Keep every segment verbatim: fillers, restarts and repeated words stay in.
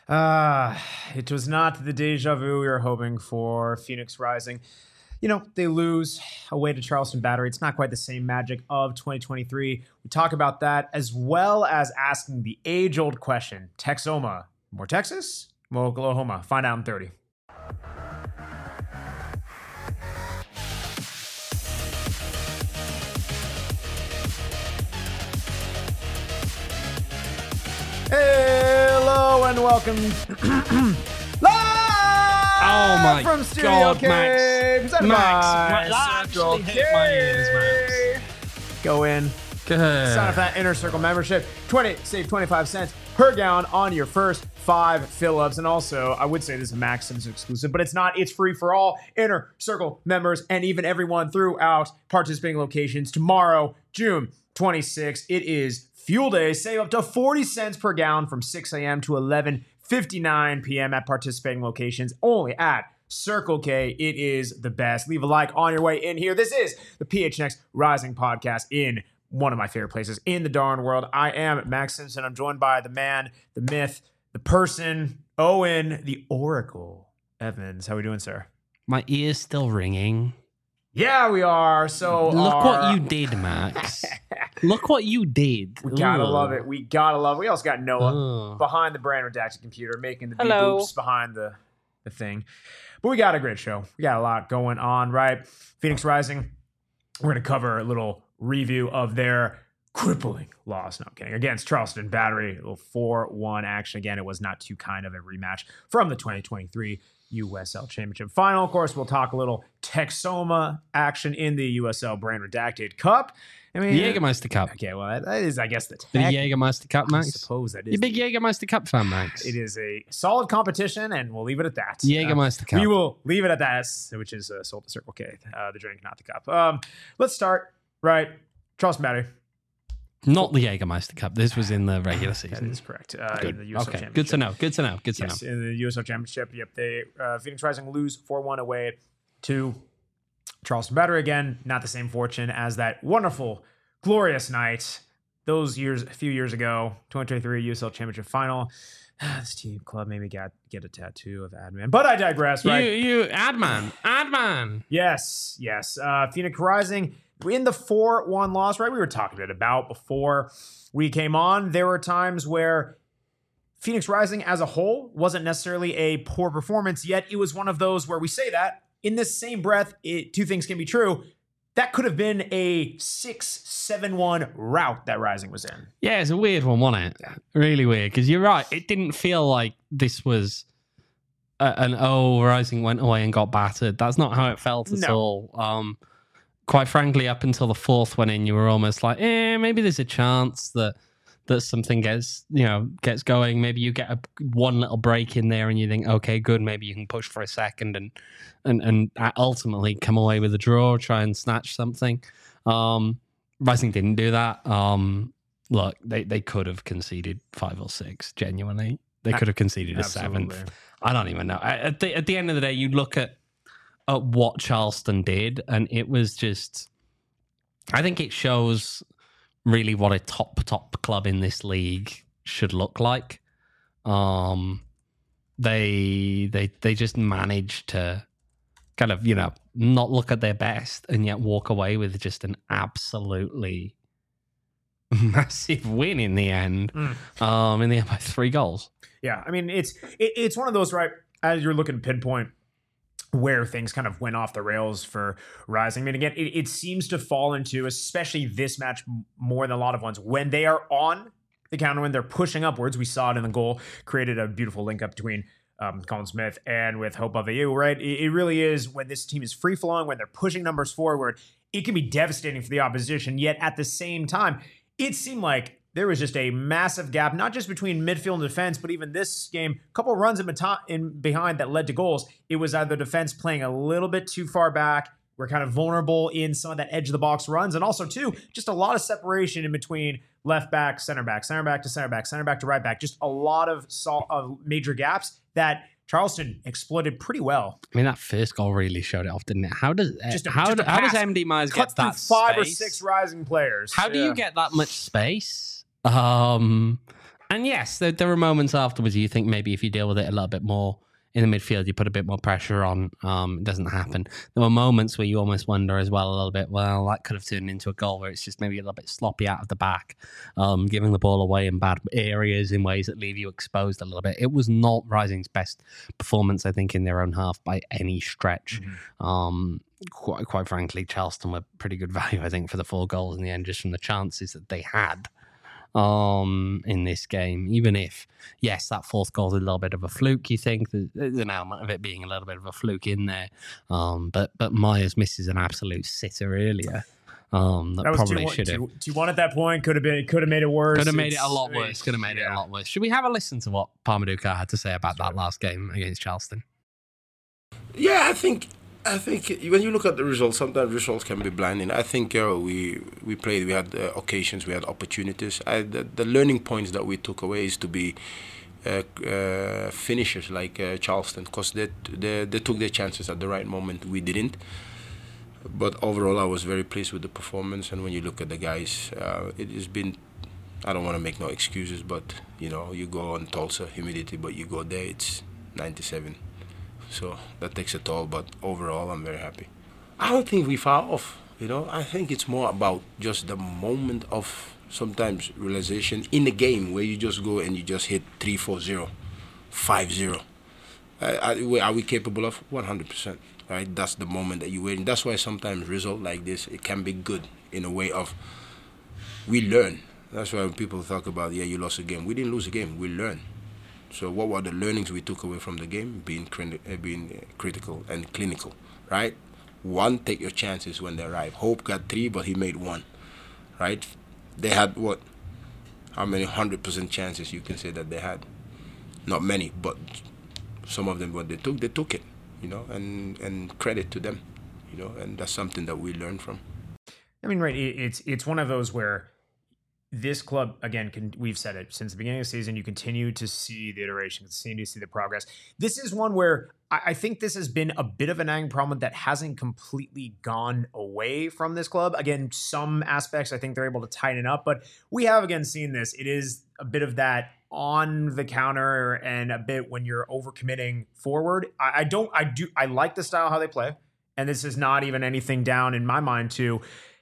Uh, it was not the deja vu we were hoping for. Phoenix Rising, you know, they lose away to Charleston Battery. It's not quite the same magic of twenty twenty-three. We talk about that as well as asking the age-old question, Texoma, more Texas, more Oklahoma? Find out in thirty. Hello and welcome live oh my from Studio God, K, Max. presented Max, by Max, that actually Central hit my ears, Max. Go in, Good. sign up for that Inner Circle membership. twenty save twenty-five cents per gallon on your first five fill-ups. And also, I would say this is a Max Sims exclusive, but it's not. It's free for all Inner Circle members and even everyone throughout participating locations. Tomorrow, June twenty-sixth, it is Fuel Day. Save up to forty cents per gallon from six a.m. to eleven fifty-nine p.m. at participating locations only at Circle K. It is the best. Leave a like on your way in here. This is the P H N X Rising podcast in one of my favorite places in the darn world. I am Max Simpson. I'm joined by the man, the myth, the person, Owen, the Oracle Evans. How are we doing, sir? My ear's still ringing. Yeah, we are. So Look our... what you did, Max. Look what you did. We gotta Ugh. love it. We gotta love it. We also got Noah Ugh. behind the brand redacted computer, making the beep Hello. boops behind the, the thing. But we got a great show. We got a lot going on, right? Phoenix Rising. We're gonna cover a little review of their crippling loss. No, I'm kidding. Against Charleston Battery, a little four one action. Again, it was not too kind of a rematch from the twenty twenty-three U S L Championship Final. Of course, we'll talk a little Texoma action in the U S L Brand Redacted Cup. I mean, The Jägermeister Cup. Okay, well, that, that is, I guess, the The tech. Jägermeister Cup, I Max. suppose that is. You big the- Jägermeister Cup fan, Max. It is a solid competition, and we'll leave it at that. Jägermeister Uh, Cup. We will leave it at that, which is uh, sold to Circle K, uh, the drink, not the cup. Um, let's start, right? Charleston Battery. Not the Jägermeister Cup. This was in the regular That season. is correct. Uh, Good. in the U S L Okay. Championship. Good to know. Good to know. Good to Yes, know. in the U S L Championship. Yep, they uh, Phoenix Rising lose four one away to Charleston Battery again. Not the same fortune as that wonderful, glorious night those years, a few years ago, twenty twenty-three U S L Championship Final. This team club made me get, get a tattoo of Adman, but I digress. Right? You, you, Adman, Adman. Yes, yes. Uh, Phoenix Rising in the four one loss, right? We were talking a bit about before we came on. There were times where Phoenix Rising as a whole wasn't necessarily a poor performance, yet it was one of those where we say that in this same breath, it, two things can be true. That could have been a six seven one route that Rising was in. Yeah, it's a weird one, wasn't it? Yeah. Really weird. Because you're right. It didn't feel like this was a, an oh, Rising went away and got battered. That's not how it felt at No. all. Um, quite frankly, up until the fourth one in, you were almost like, eh, maybe there's a chance that that something gets, you know, gets going. Maybe you get a one little break in there and you think, okay, good, maybe you can push for a second and and and ultimately come away with a draw, try and snatch something. Um, Rising didn't do that. Um, look, they, they could have conceded five or six, genuinely. They could have conceded a Absolutely. seventh. I don't even know. At the, at the end of the day, you look at, at what Charleston did, and it was just, I think it shows really what a top, top club in this league should look like. Um, they they they just managed to kind of, you know, not look at their best and yet walk away with just an absolutely massive win in the end. Mm. Um, in the end by three goals. Yeah, I mean, it's it, it's one of those, right, as you're looking to pinpoint where things kind of went off the rails for Rising. I mean, again, it, it seems to fall into, especially this match more than a lot of ones, when they are on the counter, when they're pushing upwards. We saw it in the goal, created a beautiful link up between um, Colin Smith and with Hope of you, right? It, it really is when this team is free flowing, when they're pushing numbers forward, it can be devastating for the opposition. Yet at the same time, it seemed like there was just a massive gap, not just between midfield and defense, but even this game, a couple of runs in, beta- in behind that led to goals. It was either defense playing a little bit too far back. We're kind of vulnerable in some of that edge of the box runs. And also, too, just a lot of separation in between left back, center back, center back to center back, center back to right back. Just a lot of, sol- of major gaps that Charleston exploited pretty well. I mean, that first goal really showed it off, didn't it? How does Just a- how, just a how does pass. M D Myers Cut get through that five space? or six Rising players. How do Yeah. you get that much space? Um, and yes, there, there were moments afterwards you think maybe if you deal with it a little bit more in the midfield, you put a bit more pressure on. Um, it doesn't happen. There were moments where you almost wonder as well a little bit, well, that could have turned into a goal where it's just maybe a little bit sloppy out of the back, um, giving the ball away in bad areas in ways that leave you exposed a little bit. It was not Rising's best performance, I think, in their own half by any stretch. Mm-hmm. Um, quite, quite frankly, Charleston were pretty good value, I think, for the four goals in the end, just from the chances that they had. Um, in this game, even if, yes, that fourth goal is a little bit of a fluke, you think there's an element of it being a little bit of a fluke in there. Um, but but Myers misses an absolute sitter earlier. Um, that, that probably should have. two one at that point could have been, could have made it worse. Could have made it's, it a lot worse. Could have made yeah. it a lot worse. Should we have a listen to what Parmaduka had to say about that last game against Charleston? Yeah, I think. I think when you look at the results, sometimes results can be blinding. I think uh, we we played, we had uh, occasions, we had opportunities. I, the, the learning points that we took away is to be uh, uh, finishers like uh, Charleston, because they, they they took their chances at the right moment. We didn't. But overall, I was very pleased with the performance. And when you look at the guys, uh, it has been. I don't want to make no excuses, but you know, you go on Tulsa, humidity, but you go there, it's ninety-seven. So that takes a toll, but overall, I'm very happy. I don't think we far off, you know. I think it's more about just the moment of sometimes realization in the game where you just go and you just hit three, four, zero, five, zero. Uh, are we capable of? one hundred percent, right? That's the moment that you're waiting. That's why sometimes result like this, it can be good in a way of we learn. That's why when people talk about, yeah, you lost a game. We didn't lose a game, we learn. So what were the learnings we took away from the game? Being uh, being critical and clinical, right? One, take your chances when they arrive. Hope got three, but he made one, right? They had what? How many hundred percent chances you can say that they had? Not many, but some of them, what they took, they took it, you know, and, and credit to them, you know, and that's something that we learn from. I mean, right, it's it's one of those where this club, again, can, we've said it since the beginning of the season, you continue to see the iteration, continue to see the progress. This is one where I, I think this has been a bit of a nagging problem that hasn't completely gone away from this club. Again, some aspects I think they're able to tighten up, but we have, again, seen this. It is a bit of that on the counter and a bit when you're overcommitting forward. I, I don't, I do, I like the style how they play, and this is not even anything down in my mind to...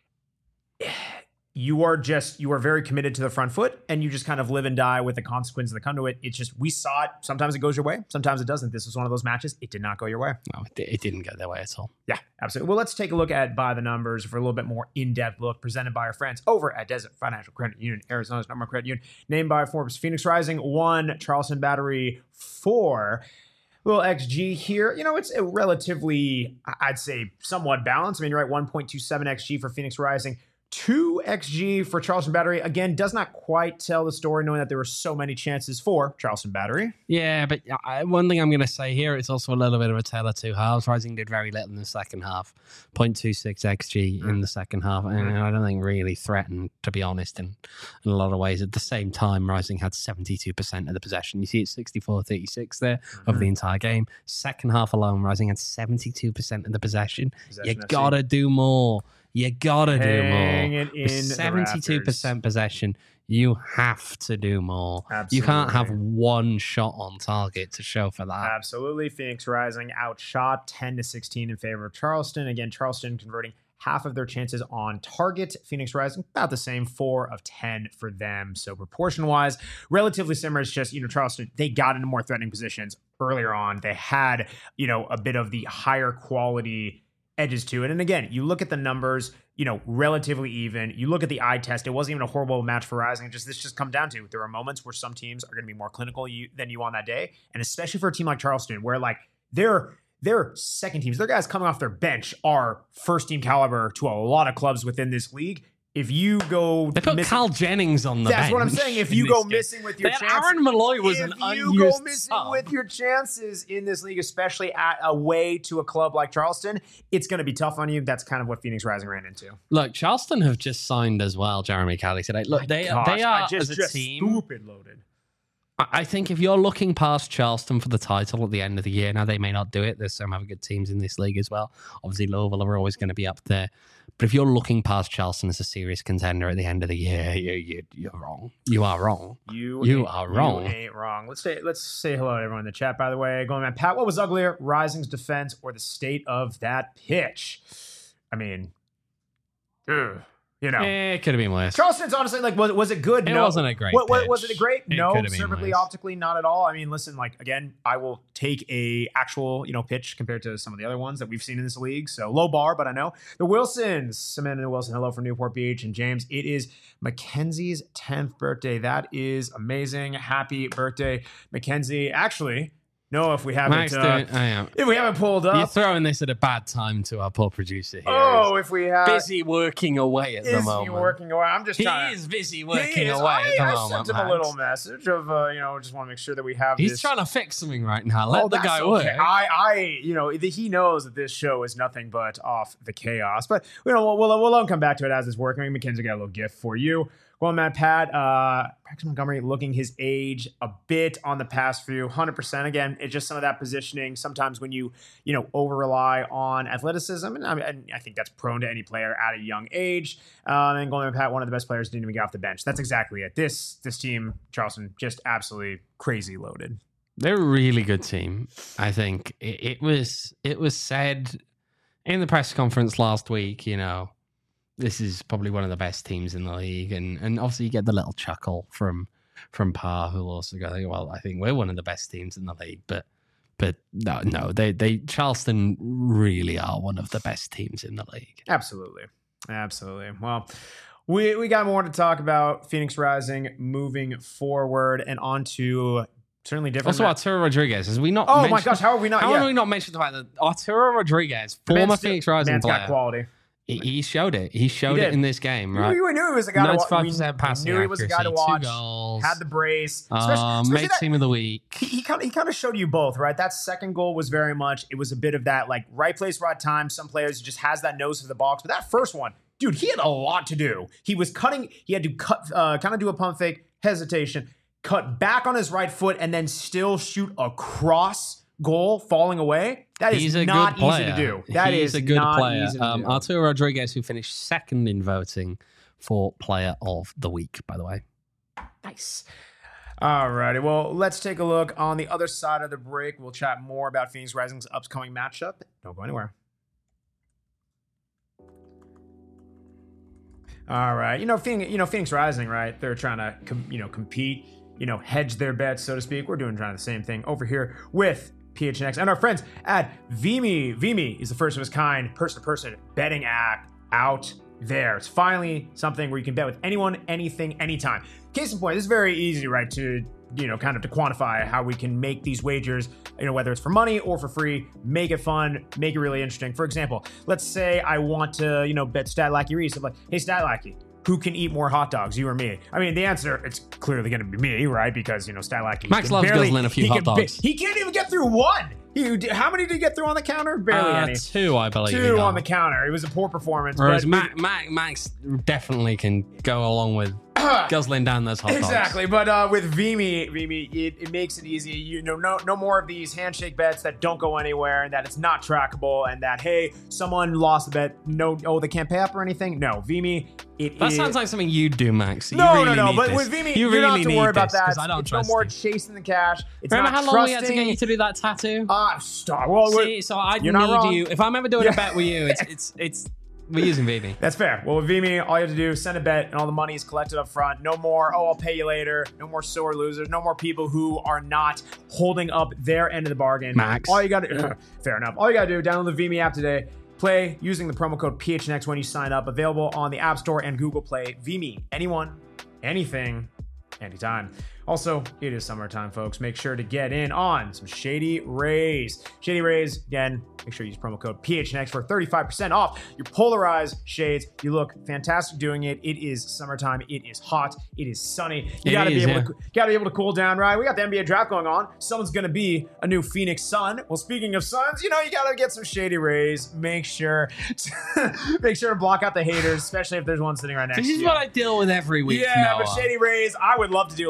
You are just, you are very committed to the front foot and you just kind of live and die with the consequences that come to it. It's just, we saw it. Sometimes it goes your way. Sometimes it doesn't. This was one of those matches. It did not go your way. No, it didn't go their way at all. Yeah, absolutely. Well, let's take a look at by the numbers for a little bit more in-depth look presented by our friends over at Desert Financial Credit Union, Arizona's number one credit union, named by Forbes. Phoenix Rising one, Charleston Battery four. Little X G here. You know, it's a relatively, I'd say, somewhat balanced. I mean, you're right, one point two seven X G for Phoenix Rising. two X G for Charleston Battery. Again, does not quite tell the story, knowing that there were so many chances for Charleston Battery. Yeah, but I, one thing I'm going to say here, it's also a little bit of a tale of two halves. Rising did very little in the second half. zero point two six X G mm. in the second half. And mm. I don't think really threatened, to be honest, in, in a lot of ways. At the same time, Rising had seventy-two percent of the possession. You see it's sixty-four thirty-six there mm-hmm. of the entire game. Second half alone, Rising had seventy-two percent of the possession. possession you got to do more. You gotta Hang do more. It in With seventy-two percent possession, you have to do more. Absolutely. You can't have one shot on target to show for that. Absolutely. Phoenix Rising outshot ten to sixteen in favor of Charleston. Again, Charleston converting half of their chances on target. Phoenix Rising, about the same, four of ten for them. So proportion-wise, relatively similar. It's just, you know, Charleston, they got into more threatening positions earlier on. They had, you know, a bit of the higher quality edges to it. And again, you look at the numbers, you know, relatively even. You look at the eye test. It wasn't even a horrible match for Rising. Just this just come down to there are moments where some teams are going to be more clinical you, than you on that day, and especially for a team like Charleston, where like they're their second teams, their guys coming off their bench are first team caliber to a lot of clubs within this league. If you go, they put Carl Jennings on the that's bench. That's what I'm saying. If you go missing with your that chances, Aaron Malloy was an unused If you go missing sub. with your chances in this league, especially at away to a club like Charleston, it's going to be tough on you. That's kind of what Phoenix Rising ran into. Look, Charleston have just signed as well. Jeremy Kelly today. Look, they gosh, they are I just, as a just team stupid loaded. I think if you're looking past Charleston for the title at the end of the year, now they may not do it. There's some other good teams in this league as well. Obviously, Louisville are always going to be up there. But if you're looking past Charleston as a serious contender at the end of the year, you, you, you're wrong. You are wrong. You, you are wrong. You ain't wrong. Let's say let's say hello to everyone in the chat, by the way. Going on, Pat, what was uglier, Rising's defense or the state of that pitch? I mean, ugh, you know. Eh, it could have been worse. Charleston's honestly, like, was, was it good? It no. wasn't a great what, what, pitch. Was it a great? It no. could have been Perfectly worse. optically, not at all. I mean, listen, like, again, I will take a actual, you know, pitch compared to some of the other ones that we've seen in this league. So low bar, but I know. The Wilsons, Samantha Wilson, hello from Newport Beach. And James, it is Mackenzie's tenth birthday. That is amazing. Happy birthday, Mackenzie. Actually, no, if we haven't, Max, uh, doing, I am. if we haven't pulled up. You're throwing this at a bad time to our poor producer here. Oh, if we have. busy working away at the Is moment. he working away? I'm just He trying to. is busy He working is. away I, at the I moment. sent him Max. a little message of, uh, you know, just want to make sure that we have He's this. trying to fix something right now. Let Oh, the that's guy okay. work. I, I, you know, he knows that this show is nothing but off the chaos. But you know, we'll we'll, we'll let him come back to it as it's working. I mean, Mackenzie got a little gift for you. Well, Matt, Pat, uh, Braxton Montgomery looking his age a bit on the pass few, one hundred percent. Again, it's just some of that positioning. Sometimes when you, you know, over rely on athleticism, and I, mean, and I think that's prone to any player at a young age. Um, and going Pat, one of the best players didn't even get off the bench. That's exactly it. This this team, Charleston, just absolutely crazy loaded. They're a really good team. I think it, it was it was said in the press conference last week, you know, this is probably one of the best teams in the league. And and obviously you get the little chuckle from from Parr, who'll also go, well, I think we're one of the best teams in the league. But but no, no, they they Charleston really are one of the best teams in the league. Absolutely. Absolutely. Well, we we got more to talk about. Phoenix Rising moving forward and on to certainly different. Also, Arturo Rodriguez, as we not Oh my mentioned- gosh, how are we not? How yeah. have we not mentioned the fact that Arturo Rodriguez, The former man's Phoenix still- Rising man's player, got quality. he, he showed it. He showed He it did. in this game, right? We, we knew he was a guy to watch. ninety-five We percent passing knew he was a guy to accuracy, two watch. goals. Had the brace. Um, Especially- especially made that- team of the week. he, he kind of he kind of showed you both, right? That second goal was very much, it was a bit of that like right place, right time. Some players just has that nose for the box, but that first one, dude, he had a lot to do. He was cutting, he had to cut, uh, kind of do a pump fake, hesitation, cut back on his right foot, and then still shoot a cross goal falling away. That is He's a not good player. easy to do. That He's is a good not player. easy to Um, do. Arturo Rodriguez, who finished second in voting for Player of the Week, by the way. Nice. All righty. Well, let's take a look on the other side of the break. We'll chat more about Phoenix Rising's upcoming matchup. Don't go anywhere. All right. You know, Phoenix, you know, Phoenix Rising, right? They're trying to, com- you know, compete, you know, hedge their bets, so to speak. We're doing trying the same thing over here with P H N X and our friends at Vimy. Vimy is the first of its kind person-to-person betting app out there. It's finally something where you can bet with anyone, anything, anytime. Case in point, this is very easy, right, to, you know, kind of to quantify how we can make these wagers, you know, whether it's for money or for free, make it fun, make it really interesting. For example, let's say I want to, you know, bet Statlacky Reese. I'm like, hey, Statlacky, who can eat more hot dogs, you or me? I mean, the answer, it's clearly going to be me, right? Because, you know, Statlacky. Max can loves barely- guzzling a few he hot can ba- dogs. he can't even get through one. He, how many did he get through on the counter? Barely Uh, any. two, I believe. Two he on got. the counter. It was a poor performance. Whereas but Mac, Mac, Max definitely can go along with guzzling down those hot dogs. Exactly, but uh, with Vimy, Vimy, it, it makes it easy. You know, no, no more of these handshake bets that don't go anywhere, and that it's not trackable, and that hey, someone lost the bet. No, oh, they can't pay up or anything. No, Vimy, it That is- sounds like something you do, Max. You no, really no, no. need But this. with Vimy, you you really don't have to need worry about this, that. 'cause I don't It's no trust more you. chasing the cash. It's Remember not how long we had to trusting- get you to do that tattoo? Ah, stop. Well, See, we're- so I you're not need wrong. you. If I'm ever doing Yeah. a bet with you, it's it's it's we're using Vimy. That's fair. Well, with Vimy, all you have to do is send a bet, and all the money is collected up front. No more, oh, I'll pay you later. No more sore losers. No more people who are not holding up their end of the bargain. Max. All you got to fair enough. All you got to do, download the Vimy app today. Play using the promo code P H N X when you sign up. Available on the App Store and Google Play. Vimy, anyone, anything, anytime. Also, it is summertime, folks. Make sure to get in on some Shady Rays. Shady Rays, again, make sure you use promo code P H N X for thirty-five percent off your polarized shades. You look fantastic doing it. It is summertime. It is hot. It is sunny. You It gotta is, be able yeah. to gotta be able to cool down, right? We got the N B A draft going on. Someone's gonna be a new Phoenix Sun. Well, speaking of suns, you know, you gotta get some Shady Rays. Make sure to, make sure to block out the haters, especially if there's one sitting right next This to is you. what I deal with every week. Yeah, Noah. but Shady Rays, I would love to deal with some Shady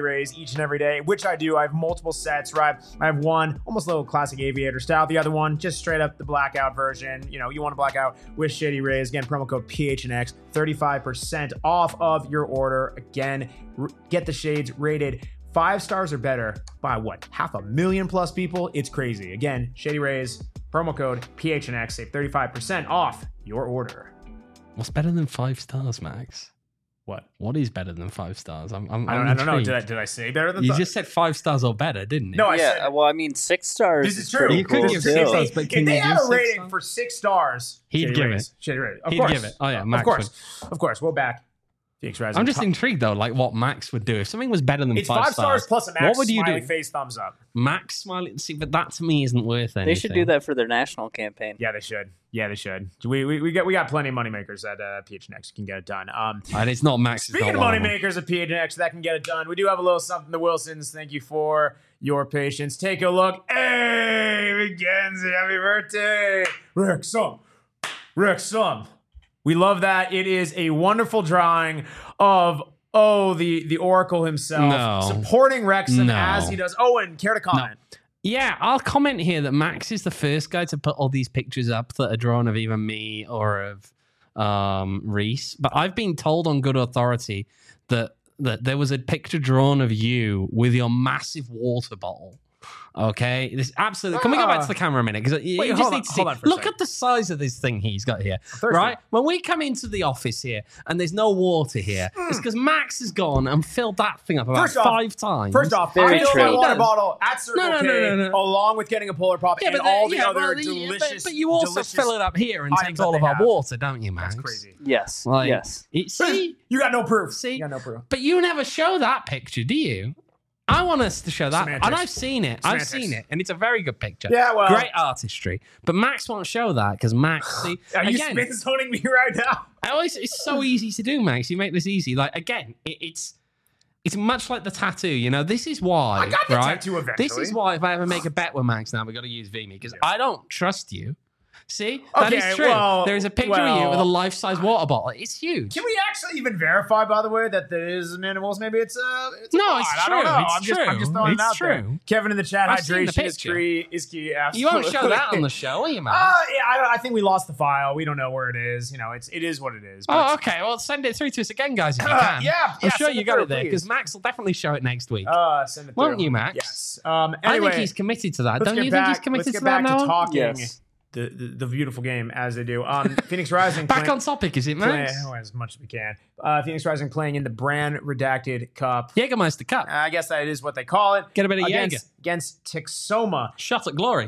Rays each and every day, which I do. I have multiple sets, right? I have one almost a little classic aviator style. The other one, just straight up the blackout version. You know, you want to black out with Shady Rays. Again, promo code P H N X, thirty-five percent off of your order. Again, r- get the shades rated five stars or better by what? Half a million plus people? It's crazy. Again, Shady Rays, promo code P H N X, save thirty-five percent off your order. What's better than five stars, Max? What? What is better than five stars? I'm, I'm, I don't, I'm I don't know. intrigued. Did I, did I say better than You th- just said five stars or better, didn't you? No, I yeah, said. well, I mean, six stars. This is true. pretty You could cool give too. six If stars, they, but if can they you had give a six rating stars? for six stars, He'd Shady give Rays. it. Shady Rays. Of He'd course. give it. Oh, yeah, Of Max course. Of course. We'll back Phoenix Rising. I'm just Top- intrigued though, like what Max would do if something was better than It's five, five stars plus a Max What would you smiley do? face thumbs up. Max smiley. See, but that to me isn't worth anything. They should do that for their national campaign. Yeah, they should. Yeah, they should. We we, we got we got plenty of moneymakers at uh, P H N X. You can get it done. Um, And it's not Max. Speaking of moneymakers at P H N X that can get it done, we do have a little something. The Wilsons, thank you for your patience. Take a look. Hey, McKenzie, happy birthday. Rick Sum. Rick Sum. We love that. It is a wonderful drawing of, oh, the, the Oracle himself. No. Supporting Wrexham No. as he does. Owen, care to comment? Yeah, I'll comment here that Max is the first guy to put all these pictures up that are drawn of either me or of um, Reese. But I've been told on good authority that that there was a picture drawn of you with your massive water bottle. Okay, this absolutely. Can we go back to the camera a minute? Because you Wait, just hold need on- to see. hold on for a Look second. at the size of this thing he's got here. thirsty. Right, when we come into the office here and there's no water here, it's because Max has gone and filled that thing up about First off- five times. First off, Very I filled true. my He water does. bottle at Circle No, no, K, no, no, no. along with getting a Polar Pop and but all then- the yeah, other well, yeah, delicious. But, but you also delicious fill it up here and items take that all they of our have. water, don't you, Max? That's crazy. Yes. Like, yes. it- see, You got no proof. See? You got no proof. but you never show that picture, do you? I want us to show that, Semantics. and I've seen it. Semantics. I've seen it, and it's a very good picture. Yeah, well- great artistry. But Max won't show that because Max, see, Are you again, spin zoning me right now? I always, it's so easy to do, Max. You make this easy. Like again, it, it's it's much like the tattoo. You know, this is why. I got the right? tattoo eventually. This is why if I ever make a bet with Max now, we got to use Vimy because I don't trust you. See, that Okay, is true. well, there is a picture of you well- with a life-size water bottle. It's huge. Can we actually even verify, by the way, that there is minimals? Maybe it's uh, it's a No, bot. it's I don't true. know. It's I'm just, I'm true. just throwing It's it out there. true. Kevin in the chat, I've seen the hydration is picture. key. Is key. You Absolutely. won't show that on the show, will you, Max? Uh, yeah, I, I think we lost the file. We don't know where it is. You know, it's it is what it is. but Oh, it's- okay. Well, send it through to us again, guys, if you Uh, can. yeah, I'm yeah, sure send you it got through, it there please. because Max will definitely show it next week. Uh, send it Won't through. you, Max? Yes. Um, I anyway, think he's committed to that. let's Don't get you back, think he's committed let's get to that back now? to talking Yes. the, the the beautiful game as they do. Um, Phoenix Rising. Back play- on topic, is it, play- Max? oh, as much as we can. Uh, Phoenix Rising playing in the brand redacted cup. Jägermeister Cup. I guess that is what they call it. Get a bit of against, Jaeger. against Texoma. Shot at glory.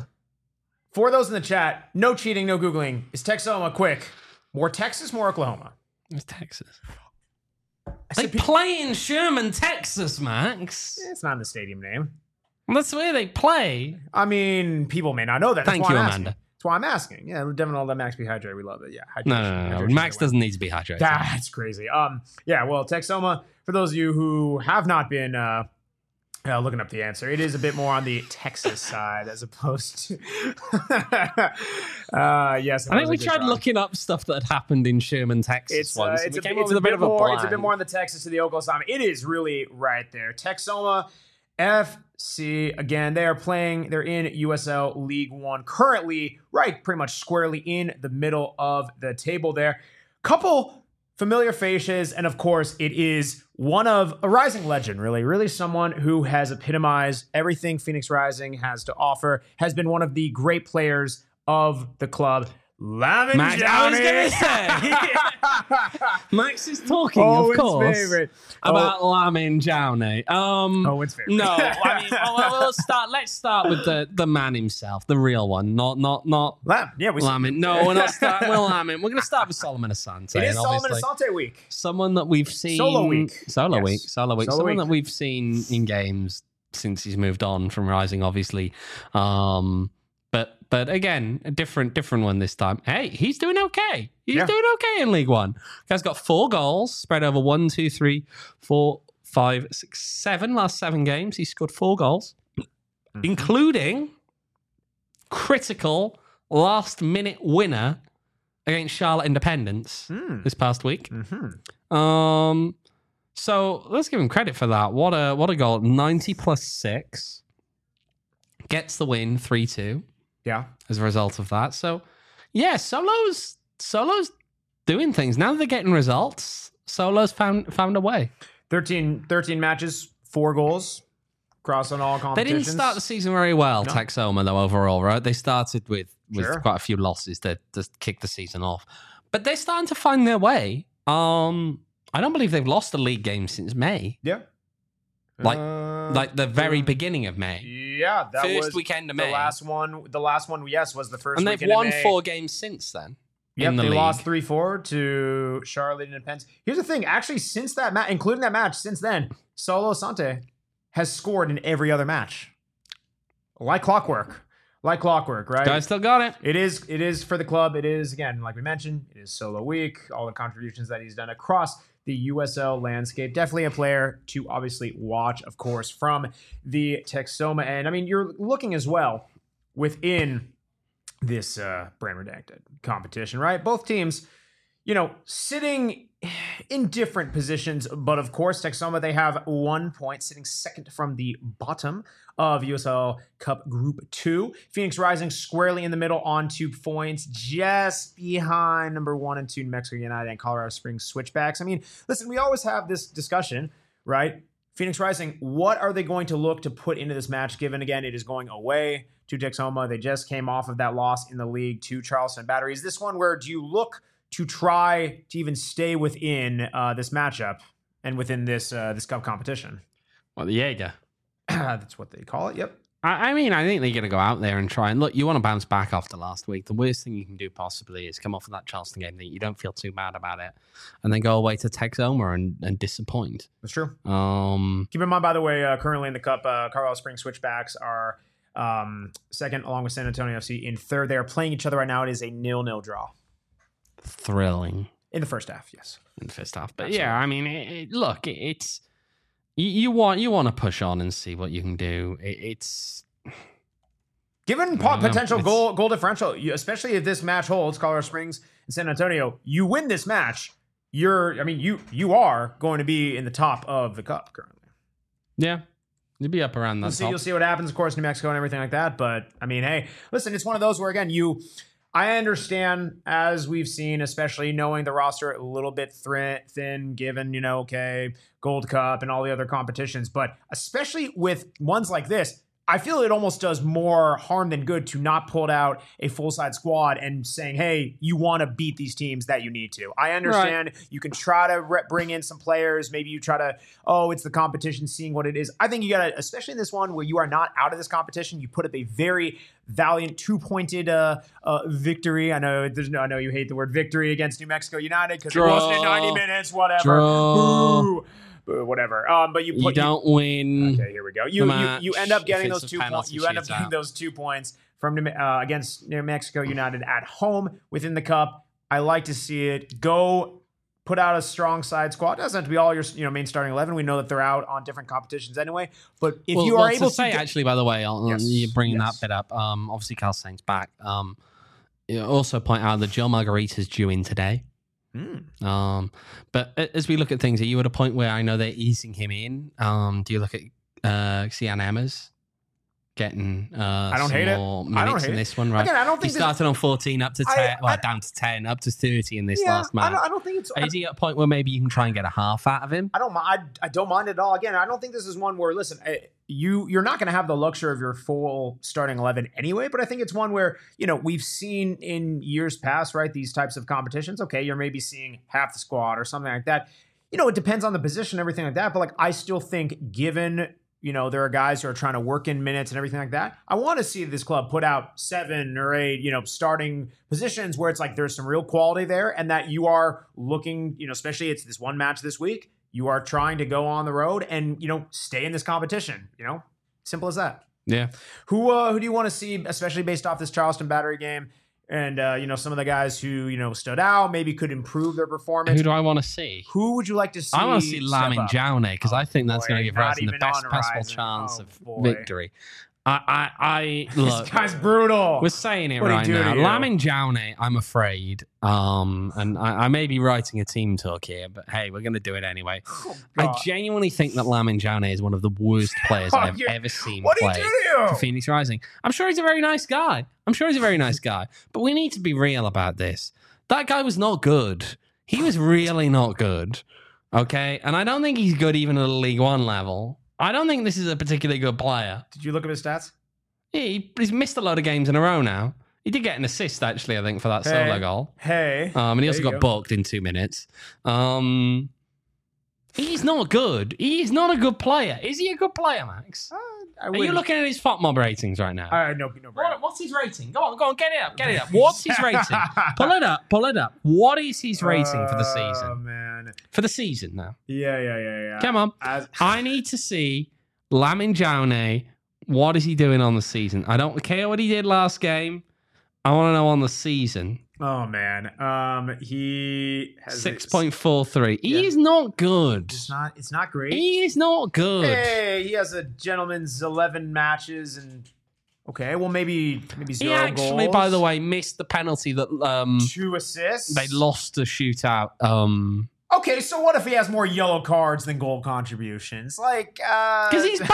For those in the chat, no cheating, no Googling. Is Texoma quick? More Texas, more Oklahoma? It's Texas. I They said, pe- play in Sherman, Texas, Max. it's not in the stadium name. That's where they play. I mean, people may not know that. That's Thank why you, I'm asking. Amanda. That's why I'm asking. Yeah, Devin, all that Max be hydrated. We love it. Yeah, hydration. No, no, no. no. hydration Max is the way. doesn't need to be hydrated. That's crazy. Um, yeah. Well, Texoma. For those of you who have not been uh, uh, looking up the answer, it is a bit more on the Texas side as opposed to. uh, yes, it I was think a we good tried try. looking up stuff that had happened in Sherman, Texas It's, uh, once. it's, and a, we came it's up with a bit of a more. It's a bit blank. more on the Texas to the Oklahoma. It is really right there. Texoma F C again. They are playing. They're in U S L League One currently, right, pretty much squarely in the middle of the table. There, couple familiar faces, and of course, it is one of a rising legend. Really, really someone who has epitomized everything Phoenix Rising has to offer. Has been one of the great players of the club. Lamin Max, I was Johnny. gonna say. Max is talking, Owen's of course, favorite. about Lamin Jowney. Um, Owen's favorite. No, I mean, well, well, we'll start. Let's start with the, the man himself, the real one, not not not Lam. Yeah, we Lamin. No, we're not starting with Lamin. We're going to start with Solomon Asante. It is and Solomon obviously Asante week. someone that we've seen Solo week. solo Yes. week, solo week, Solo someone week. that we've seen in games since he's moved on from Rising, obviously. Um, but but again, a different different one this time. Hey, he's doing okay. He's Yeah. doing okay in League One. Guy's got four goals spread over one, two, three, four, five, six, seven. Last seven games, he scored four goals, Mm-hmm. including critical last minute winner against Charlotte Independence Mm. this past week. Mhm. Um, So let's give him credit for that. What a what a goal. ninety plus six. Gets the win three two. Yeah. As a result of that. So yeah, Solo's Solo's doing things. Now they're getting results. Solo's found found a way. thirteen, thirteen matches, four goals across on all They competitions. didn't start the season very well, No. Texoma, though, overall, right? They started with, with Sure. quite a few losses that just kicked the season off. But they're starting to find their way. Um, I don't believe they've lost a league game since May. Yeah. Like- Uh, Like the very uh, beginning of May. Yeah, that First was weekend of the May. last one. The last one, yes, was the first. And they've weekend of won May. four games since then. Yep, in the they league. lost three four to Charlotte and Pence. Here's the thing. Actually, since that match, including that match, since then, Solo Sante has scored in every other match. Like clockwork. Like clockwork, right? Guys still got it. It is it is for the club. It is, again, like we mentioned, it is Solo week. All the contributions that he's done across the U S L landscape. Definitely a player to obviously watch, of course, from the Texoma end. I mean, you're looking as well within this uh, brand redacted competition, right? Both teams, you know, sitting in different positions, but of course, Texoma, they have one point, sitting second from the bottom of U S L Cup Group two. Phoenix Rising squarely in the middle on two points, just behind number one and two New Mexico United and Colorado Springs Switchbacks. I mean, listen, we always have this discussion, right? Phoenix Rising, what are they going to look to put into this match, given, again, it is going away to Texoma. They just came off of that loss in the league to Charleston Battery. Is this one where do you look to try to even stay within uh, this matchup and within this uh, this cup competition? Well, the Jaeger. That's what they call it. Yep. I, I mean, I think they're going to go out there and try. And look, you want to bounce back after last week. The worst thing you can do possibly is come off of that Charleston game that you don't feel too bad about it, and then go away to Texoma and, and disappoint. That's true. Um, Keep in mind, by the way, uh, currently in the cup, uh, Colorado Springs Switchbacks are um, second, along with San Antonio F C in third. They are playing each other right now. It is a nil-nil draw thrilling in the first half. Yes. in the first half. But yeah, I mean, it, it, look, it, it's you, you want you want to push on and see what you can do. It, it's Given I po- don't know. potential It's- goal goal differential, you, especially if this match holds, Colorado Springs and San Antonio, you win this match, you're, I mean, you you are going to be in the top of the cup currently. yeah, you'd be up around that. You'll see, top. you'll see what happens, of course, New Mexico and everything like that. But I mean, hey, listen, it's one of those where, again, you, I understand, as we've seen, especially knowing the roster a little bit thin, thin given, you know, okay, Gold Cup and all the other competitions, but especially with ones like this, I feel it almost does more harm than good to not pull out a full-side squad and saying, hey, you want to beat these teams that you need to. I understand you can try to re- bring in some players. Maybe you try to, oh, it's the competition, seeing what it is. I think you got to, especially in this one where you are not out of this competition, you put up a very valiant two-pointed uh, uh, victory. I know there's no, I know you hate the word victory against New Mexico United because it wasn't in ninety minutes, whatever. Draw. Boo. Boo, whatever. Um, but you put You don't win. Okay, here we go. You you, match you end up if getting it's those a two points. penalty You end up shootout. getting those two points from New, uh, against New Mexico United at home within the cup. I like to see it. Go put out a strong side squad. It doesn't have to be all your you know main starting eleven. We know that they're out on different competitions anyway. But if well, you well, are to able to say, get- actually, by the way, on, Yes, you're bringing yes. that bit up. Um, obviously, Carl Sainz back. Um, you also point out that Joe Margarita's due in today. Hmm. Um, but a- as we look at things, are you at a point where I know they're easing him in? Um, do you look at uh, Cian Emmers getting uh, I don't some hate it. more I minutes don't hate in it. this one? Right, Again, I don't he think this- started on fourteen up to I- ten, well, I- down to ten, up to thirty in this yeah, last I match. don't, I don't think it's. Is he at a point where maybe you can try and get a half out of him? I don't mind. I, I don't mind at all. Again, I don't think this is one where listen, eh, you you're not going to have the luxury of your full starting eleven anyway. But I think it's one where you know we've seen in years past, right? These types of competitions. Okay, you're maybe seeing half the squad or something like that. You know, it depends on the position, everything like that. But like, I still think, given you know there are guys who are trying to work in minutes and everything like that, I want to see this club put out seven or eight, you know, starting positions where it's like there's some real quality there, and that you are looking, you know, especially it's this one match this week. You are trying to go on the road and, you know, stay in this competition, you know, simple as that. Yeah. Who uh, who do you want to see, especially based off this Charleston Battery game? And, uh, you know, some of the guys who, you know, stood out, maybe could improve their performance. Who do I want to see? Who would you like to see? I want to see step Lamin up? Jaune because Oh, I think that's boy, going to give not Rising the even best on possible Horizon. chance Oh, of boy. victory. I, I, I look. This guy's brutal. We're saying it What'd he right do to now. you? Lamin Jaune, I'm afraid, um, and I, I may be writing a team talk here, but hey, we're going to do it anyway. Oh, I God. genuinely think that Lamin Jaune is one of the worst players Oh, I've you're- ever seen What did play he do to you? for Phoenix Rising. I'm sure he's a very nice guy. I'm sure he's a very nice guy, but we need to be real about this. That guy was not good. He was really not good. Okay, and I don't think he's good even at a League One level. I don't think this is a particularly good player. Did you look at his stats? He, he's missed a lot of games in a row now. He did get an assist, actually, I think, for that Hey. solo goal. Hey. Um, and he also There you got go. booked in two minutes. Um, he's not good. He's not a good player. Is he a good player, Max? Uh, I Are you wouldn't- looking at his FOTMob ratings right now? Uh, no, no, What, what's his rating? Go on, go on, get it up, get it up. What's his rating? Pull it up, pull it up. What is his rating for the Oh, season? man. For the season now. Yeah, yeah, yeah, yeah. Come on. As- I need to see Lamin Jaune. What is he doing on the season? I don't care what he did last game. I want to know on the season. Oh man. Um, he has six point four three. He Yeah. is not good. It's not. It's not great. He is not good. Hey, he has a gentleman's eleven matches and okay. Well, maybe maybe He zero actually, goals, by the way, missed the penalty that um two assists. they lost the shootout. Um, Okay, so what if he has more yellow cards than goal contributions? Like, uh, because he's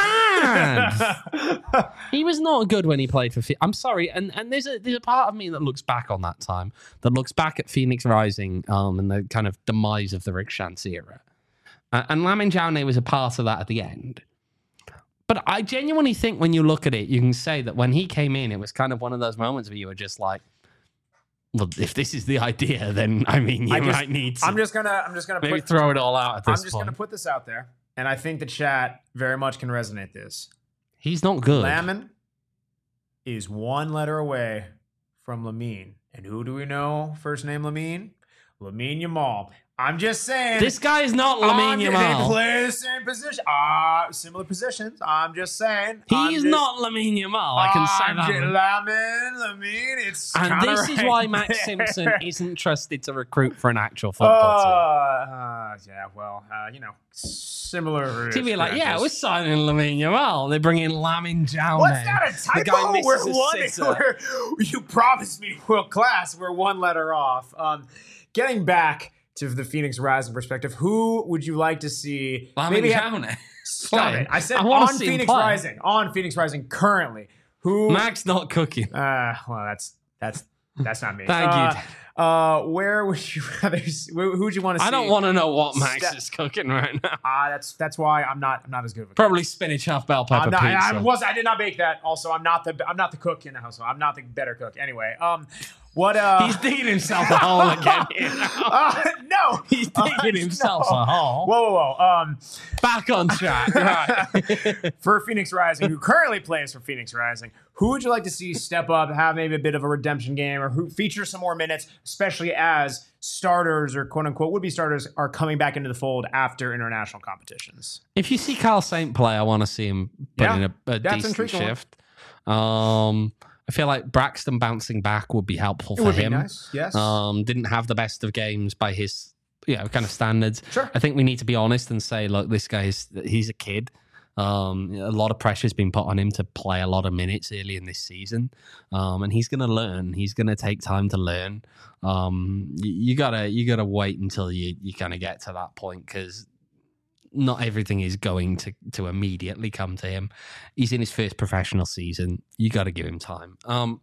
bad. He was not good when he played for. Phe- I'm sorry, and and there's a there's a part of me that looks back on that time, that looks back at Phoenix Rising, um, and the kind of demise of the Rick Chance era, uh, and Lamin Jaune was a part of that at the end. But I genuinely think when you look at it, you can say that when he came in, it was kind of one of those moments where you were just like, well, if this is the idea, then I mean, you I just- might need to I'm just gonna. I'm just gonna maybe put. throw it all out at I'm this just point. gonna put this out there, and I think the chat very much can resonate this. He's not good. Lamin is one letter away from Lamine, and who do we know? First name Lamine, Lamine Yamal. I'm just saying. This guy is not I'm- Lamine They Yamal. play the same position. Uh, similar positions. I'm just saying. I'm He's just- not Lamine Yamal. I can say I'm that. just- Lamin, Lamine. It's And kinda this is right why Max there. Simpson isn't trusted to recruit for an actual Uh, football uh, yeah, well, uh, you know, similar. team. He'd be like, yeah, we're scratches. signing Lamine Yamal. They bring in Lamin Jaune. What's that, a The guy typo? misses We're a one. sitter. We're, you promised me world class. We're one letter off. Um, getting back to the Phoenix Rising perspective, who would you like to see? Lamin have- Jaune. Stop play. it! I said I wanna on see him Phoenix play. Rising. On Phoenix Rising currently. Who? Max not cooking. Uh, well, that's that's that's not me. Thank uh, you. Uh, where would you rather? s- Who would you want to see? I don't want to know what Max Step- is cooking right now. Ah, that's that's why I'm not I'm not as good of a cook. Probably spinach half bell pepper I'm not, pizza. I, I was I did not bake that. Also, I'm not the I'm not the cook in the household. I'm not the better cook. Anyway, um, what uh? He's digging himself a hole again. Here now. uh, no, He's digging Uh, himself no. a hole. Whoa, whoa, whoa. Um, Back on track. Right. for Phoenix Rising, who currently plays for Phoenix Rising, who would you like to see step up, have maybe a bit of a redemption game, or who feature some more minutes, especially as starters or quote unquote would be starters are coming back into the fold after international competitions? If you see Carl Saint play, I want to see him put Yeah, in a, a that's decent intriguing. shift. Um, I feel like Braxton bouncing back would be helpful It for would him. be nice. Yes. Um, didn't have the best of games by his, you know, kind of standards. Sure. I think we need to be honest and say, look, this guy's he's a kid. Um, a lot of pressure's been put on him to play a lot of minutes early in this season, um, and he's going to learn. He's going to take time to learn. Um, you, you gotta you gotta wait until you you kind of get to that point, because not everything is going to to immediately come to him. He's in his first professional season. You got to give him time. Um,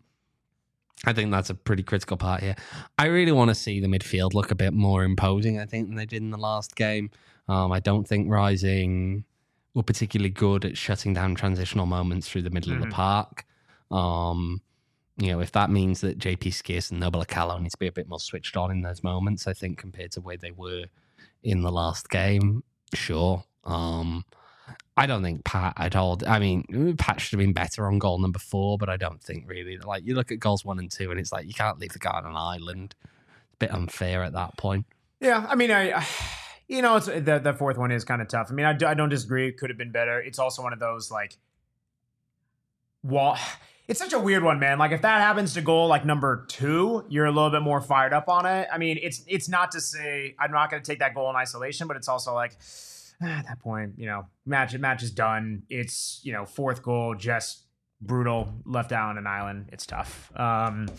I think that's a pretty critical part here. I really want to see the midfield look a bit more imposing, I think, than they did in the last game. Um, I don't think Rising were particularly good at shutting down transitional moments through the middle Mhm. of the park. Um, you know, if that means that J P Skis and Noble Acalo need to be a bit more switched on in those moments, I think, compared to where they were in the last game, sure. Um, I don't think Pat at all. I mean, Pat should have been better on goal number four, but I don't think really. Like, you look at goals one and two, and it's like you can't leave the guy on an island. It's a bit unfair at that point. Yeah, I mean, I, you know, it's the the fourth one is kind of tough. I mean, I, do, I don't disagree. It could have been better. It's also one of those like, well, it's such a weird one, man. Like if that happens to goal like number two, you're a little bit more fired up on it. I mean, it's it's not to say I'm not going to take that goal in isolation, but it's also like at that point, you know, match match is done. It's you know fourth goal, just brutal, left out on an island. It's tough. Um,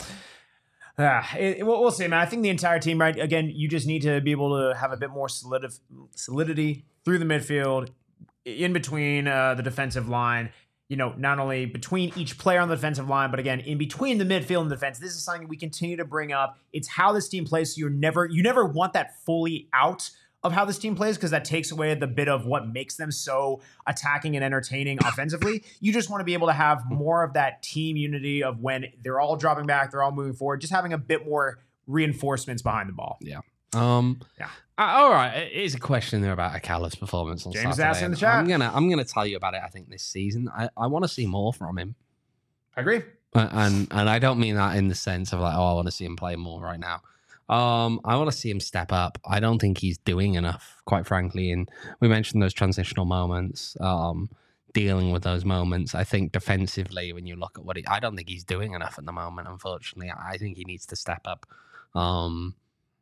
uh, it, we'll, we'll see, man. I think the entire team, right? Again, you just need to be able to have a bit more solid, solidity through the midfield, in between uh, the defensive line. You know, not only between each player on the defensive line, but again, in between the midfield and defense. This is something we continue to bring up. It's how this team plays. So you're never, you never want that fully out of how this team plays, because that takes away the bit of what makes them so attacking and entertaining offensively. You just want to be able to have more of that team unity of when they're all dropping back, they're all moving forward, just having a bit more reinforcements behind the ball. Yeah. Um, yeah. Uh, all right. Here's a question there about Akala's performance on James Saturday. asked in the chat. I'm gonna, I'm gonna tell you about it. I think this season, I, I want to see more from him. I agree. Uh, and and I don't mean that in the sense of like, oh, I want to see him play more right now. Um, I want to see him step up. I don't think he's doing enough, quite frankly. And we mentioned those transitional moments, um, dealing with those moments. I think defensively, when you look at what he, I don't think he's doing enough at the moment. Unfortunately, I think he needs to step up. Um,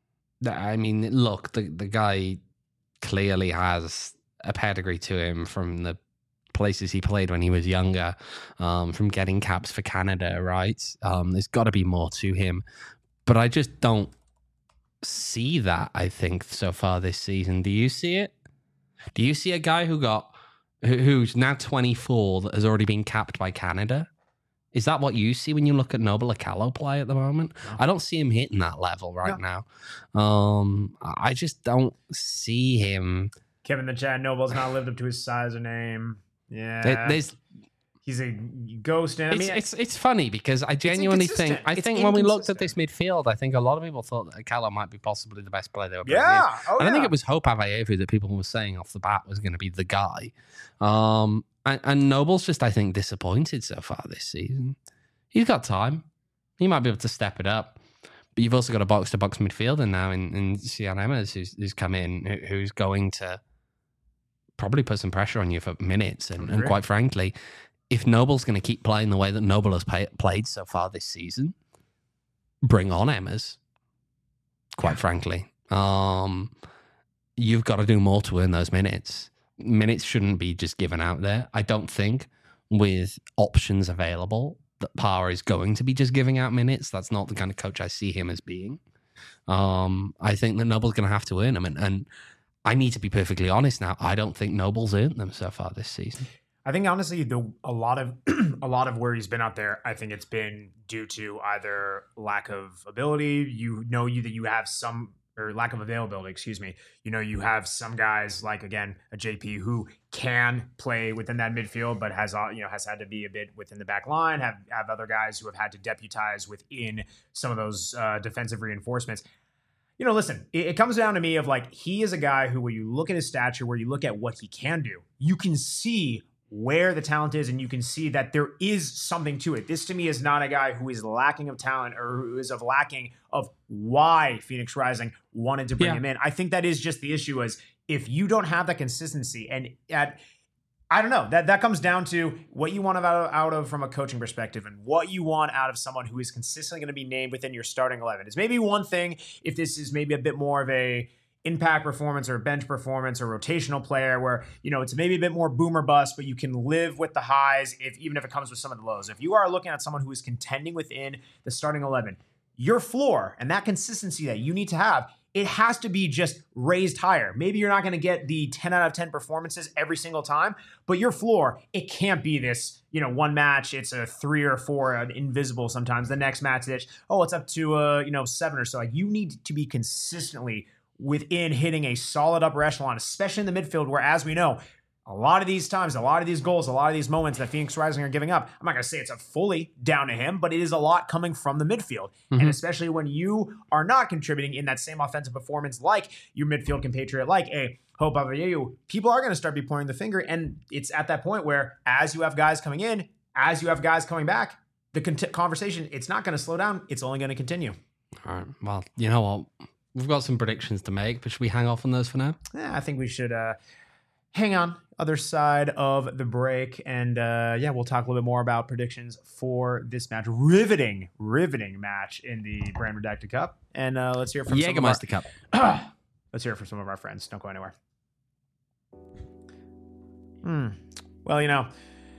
I mean, look, the the guy clearly has a pedigree to him from the places he played when he was younger, um, from getting caps for Canada, right? Um, there's got to be more to him, but I just don't see that, I think, so far this season. Do you see it? Do you see a guy who got who, who's now twenty-four that has already been capped by Canada? Is that what you see when you look at Noble Akalo play at the moment? No. I don't see him hitting that level right no. now. Um, I just don't see him. Kevin in the chat, Noble's not lived up to his size or name. Yeah. There's, He's a ghost. And I mean, it's, it's it's funny because I genuinely think I it's think when we looked at this midfield, I think a lot of people thought that Akalo might be possibly the best player they were bringing yeah. in. Oh, and yeah. I think it was Hope Avayevu that people were saying off the bat was going to be the guy. Um, and, and Noble's just, I think, disappointed so far this season. He's got time. He might be able to step it up. But you've also got a box-to-box midfielder now in, in Cian Emmers who's, who's come in, who, who's going to probably put some pressure on you for minutes. And, and quite frankly, if Noble's going to keep playing the way that Noble has pay, played so far this season, bring on Emmers, quite yeah. frankly. Um, you've got to do more to earn those minutes. Minutes shouldn't be just given out there. I don't think with options available that Power is going to be just giving out minutes. That's not the kind of coach I see him as being. Um, I think that Noble's going to have to earn them. And, and I need to be perfectly honest now. I don't think Noble's earned them so far this season. I think honestly, the a lot of a lot of where he's been out there, I think it's been due to either lack of ability. You know, you that you have some or lack of availability. Excuse me. You know, you have some guys like again a J P who can play within that midfield, but has you know has had to be a bit within the back line. Have have other guys who have had to deputize within some of those uh, defensive reinforcements. You know, listen, it, it comes down to me of like he is a guy who, when you look at his stature, where you look at what he can do, you can see where the talent is, and you can see that there is something to it. This to me is not a guy who is lacking of talent or who is of lacking of why Phoenix Rising wanted to bring yeah. him in. I think that is just the issue is if you don't have that consistency and at, I don't know, that, that comes down to what you want out of, out of from a coaching perspective and what you want out of someone who is consistently going to be named within your starting eleven. It's maybe one thing if this is maybe a bit more of a impact performance or bench performance or rotational player where, you know, it's maybe a bit more boom or bust, but you can live with the highs if even if it comes with some of the lows. If you are looking at someone who is contending within the starting eleven, your floor and that consistency that you need to have, it has to be just raised higher. Maybe you're not going to get the ten out of ten performances every single time, but your floor, it can't be this, you know, one match, it's a three or four, an invisible sometimes. The next match, it's, oh, it's up to, uh, you know, seven or so. Like you need to be consistently within hitting a solid upper echelon, especially in the midfield, where, as we know, a lot of these times, a lot of these goals, a lot of these moments that Phoenix Rising are giving up, I'm not going to say it's a fully down to him, but it is a lot coming from the midfield. Mm-hmm. And especially when you are not contributing in that same offensive performance like your midfield compatriot, like a Hope Avayevu, people are going to start be pointing the finger. And it's at that point where, as you have guys coming in, as you have guys coming back, the con- conversation, it's not going to slow down. It's only going to continue. All right. Well, you know what? We've got some predictions to make, but should we hang off on those for now? Yeah, I think we should uh, hang on other side of the break. And uh, yeah, we'll talk a little bit more about predictions for this match. Riveting, riveting match in the Brand Redacted Cup. And uh, let's hear it from Jägermeister Cup. Let's hear it from some of our friends. Don't go anywhere. Hmm. Well, you know,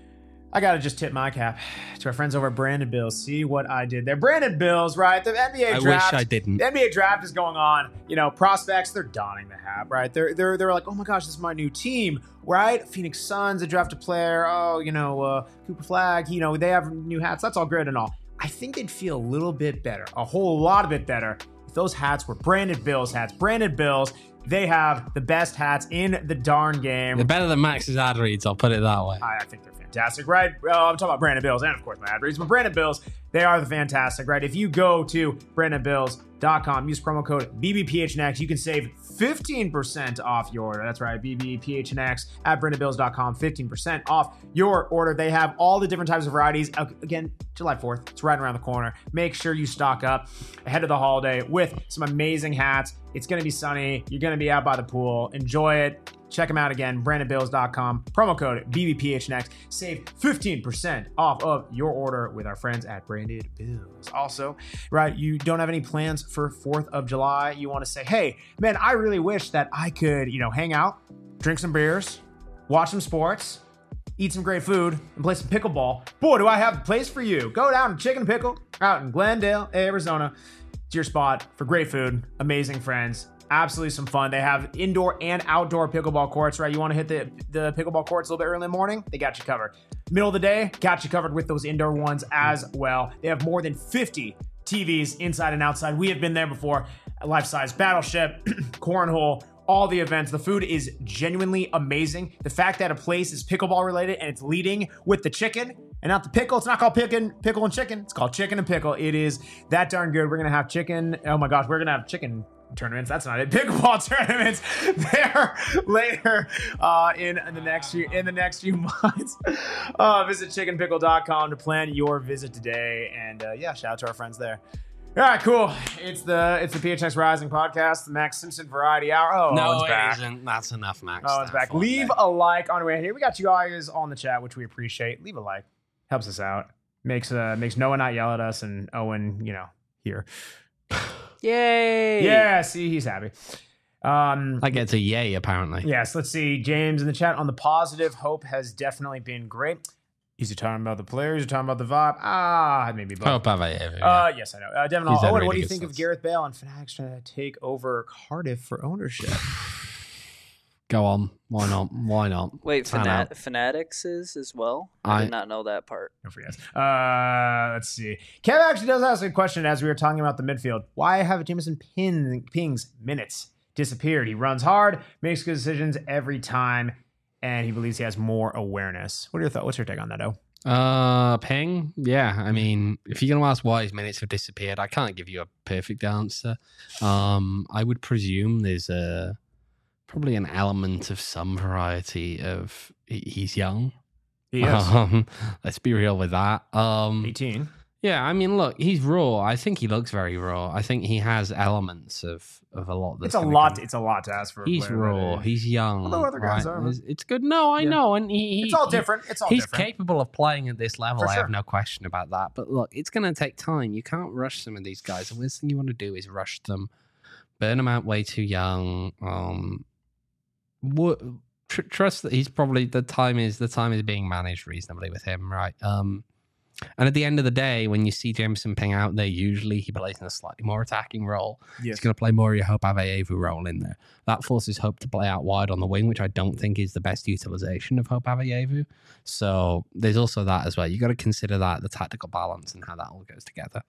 I gotta just tip my cap to our friends over at Branded Bills. See what I did there. Branded Bills, right? The N B A I draft. wish I didn't. The N B A draft is going on. You know, prospects, they're donning the hat, right? They're they're they're like, oh my gosh, this is my new team, right? Phoenix Suns, they draft a player. Oh, you know, uh, Cooper Flag, you know, they have new hats. That's all great and all. I think they'd feel a little bit better, a whole lot of bit better, if those hats were Branded Bills hats. Branded Bills. They have the best hats in the darn game. They're better than Max's ad reads, I'll put it that way. I, I think they're fantastic, right? Well, I'm talking about Branded Bills and, of course, my ad reads. But Branded Bills, they are the fantastic, right? If you go to branded bills dot com, use promo code B B P H N X, you can save fifteen percent off your order. That's right, B B P H N X at branded bills dot com, fifteen percent off your order. They have all the different types of varieties. Again, July fourth, it's right around the corner. Make sure you stock up ahead of the holiday with some amazing hats. It's going to be sunny. You're going to be out by the pool. Enjoy it. Check them out again, branded bills dot com. Promo code B B P H N X. Save fifteen percent off of your order with our friends at Branded Bills. Also, right, you don't have any plans for fourth of July. You want to say, hey, man, I really wish that I could, you know, hang out, drink some beers, watch some sports, eat some great food, and play some pickleball. Boy, do I have a place for you. Go down to Chicken Pickle out in Glendale, Arizona. It's your spot for great food, amazing friends, absolutely some fun. They have indoor and outdoor pickleball courts, right? You want to hit the, the pickleball courts a little bit early in the morning? They got you covered. Middle of the day, got you covered with those indoor ones as well. They have more than fifty T Vs inside and outside. We have been there before. Life-size battleship, cornhole, all the events. The food is genuinely amazing. The fact that a place is pickleball related and it's leading with the chicken and not the pickle. It's not called pickle, pickle and chicken. It's called chicken and pickle. It is that darn good. We're going to have chicken. Oh my gosh, we're going to have chicken tournaments. That's not it. Pickleball tournaments there later uh, in the next few in the next few months. Uh, visit chicken pickle dot com to plan your visit today. And uh, yeah, shout out to our friends there. All right, cool. It's the it's the P H X Rising podcast, the Max Simpson Variety Hour. Oh, no, it's it back. isn't. That's enough, Max. Oh, it's back. Leave a like on the way here. We got you guys on the chat, which we appreciate. Leave a like. Helps us out. Makes uh makes Noah not yell at us and Owen, you know, here. Yay! Yeah, see, he's happy. Um, That gets a yay, apparently. yes, let's see. James in the chat on the positive. Hope has definitely been great. Is he talking about the players? Is he talking about the vibe? Ah, maybe both. Hope have I ever. Uh, yes, I know. Uh, Devin, He's had Owen, really what do you good think stats. of Gareth Bale and Fanatics trying to take over Cardiff for ownership? Go on. Why not? Why not? Wait, Fan Fanat- out. Fanatics is as well? I, I- did not know that part. Don't forget. Uh, let's see. Kev actually does ask a question as we were talking about the midfield. Why have Jameson Pin- Ping's minutes disappeared? He runs hard, makes good decisions every time, and he believes he has more awareness. What are your thoughts? What's your take on that, O? Uh, Ping. Yeah, I mean, if you're gonna ask why his minutes have disappeared, I can't give you a perfect answer. Um, I would presume there's a probably an element of some variety of he- he's young. He is. Um, let's be real with that. Um, eighteen. yeah, I mean, look, he's raw. I think he looks very raw. I think he has elements of of a lot. That's It's a gonna lot. come- It's a lot to ask for. a He's player raw. that age. He's young. Although other guys right? are. It's, it's good. No, I Yeah. know, and he, he It's all he- different. It's all He's different. capable of playing at this level. For I sure. have no question about that. But look, it's going to take time. You can't rush some of these guys. The worst thing you want to do is rush them, burn them out way too young. Um, what, tr- trust that he's probably the time is the time is being managed reasonably with him, right? Um, and at the end of the day, when you see Jameson Ping out there, usually he plays in a slightly more attacking role. Yes. He's going to play more of your Hope Aveyevu role in there. That forces Hope to play out wide on the wing, which I don't think is the best utilization of Hope Aveyevu. So there's also that as well. You got to consider that, the tactical balance and how that all goes together.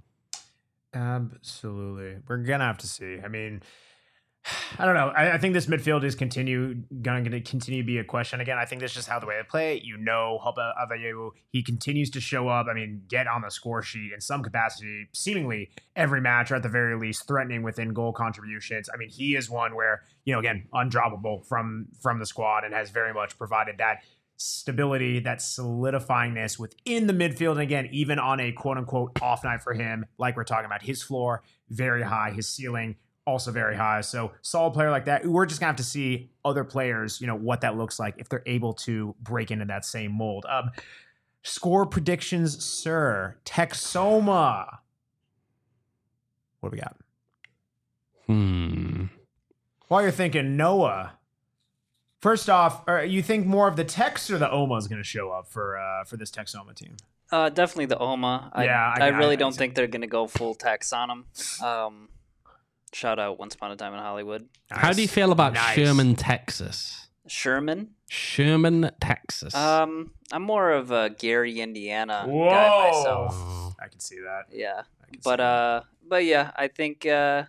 Absolutely. We're gonna have to see. I mean, I don't know. I, I think this midfield is continue going to continue to be a question. Again, I think that's just how the way they play. You know, Hopa Avayewu, he continues to show up. I mean, get on the score sheet in some capacity, seemingly every match, or at the very least, threatening within goal contributions. I mean, he is one where, you know, again, undroppable from from the squad and has very much provided that stability, that solidifyingness within the midfield. And again, even on a quote unquote off night for him, like we're talking about, his floor very high, his ceiling also very high. So solid player like that. We're just gonna have to see other players, you know, what that looks like if they're able to break into that same mold. Um, score predictions, sir. Texoma. What do we got? Hmm. While you're thinking, Noah, First off, uh, you think more of the Tex or the O M A is going to show up for uh, for this Texoma team? Uh, definitely the O M A. I, Yeah, I- I, I- really I- don't think they're going to go full tax on them. Um, shout out Once Upon a Time in Hollywood. How do you feel about Nice. Sherman, Texas? Sherman. Sherman, Texas. Um, I'm more of a Gary, Indiana guy Whoa. myself. Oh. I can see that. Yeah, I can see but that. uh, but yeah, I think uh,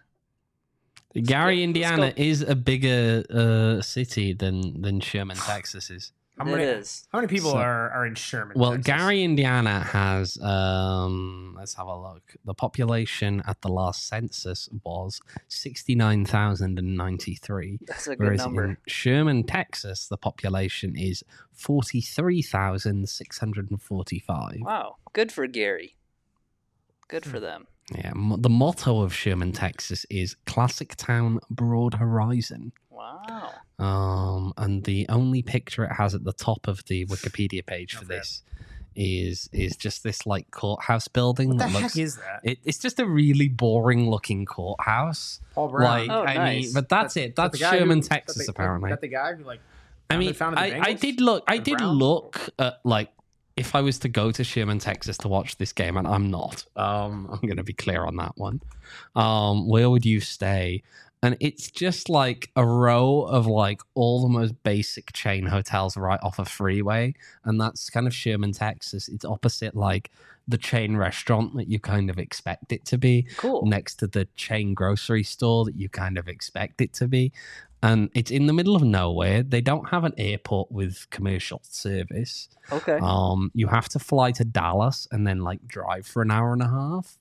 Gary, let's Indiana go. is a bigger uh, city than than Sherman, Texas is. How it many, is. how many people So- are, are in Sherman? Well, Texas? Gary, Indiana has, um, let's have a look. The population at the last census was sixty-nine thousand ninety-three. That's a good Whereas number. in Sherman, Texas, the population is forty-three thousand six hundred forty-five. Wow, good for Gary. Good Hmm. for them. Yeah, mo- the motto of Sherman, Texas is Classic Town, Broad Horizon. Wow. Um, and the only picture it has at the top of the Wikipedia page for Not bad. this is is just this like courthouse building. What the that heck looks, is that? it, it's just a really boring looking courthouse. Paul Brown. Like, Oh, I nice. mean, but that's it. That That's the guy Sherman, who- that Texas, the- apparently. That the guy who like. I founded- mean, founded the I, I Bengals? did look. I The did Browns? look at like if I was to go to Sherman, Texas to watch this game, and I'm not. Um, I'm going to be clear on that one. Um, where would you stay? And it's just like a row of like all the most basic chain hotels right off a freeway, and that's kind of Sherman, Texas. It's opposite like the chain restaurant that you kind of expect it to be, Cool. next to the chain grocery store that you kind of expect it to be. And it's in the middle of nowhere. They don't have an airport with commercial service. Okay. Um, you have to fly to Dallas and then like drive for an hour and a half.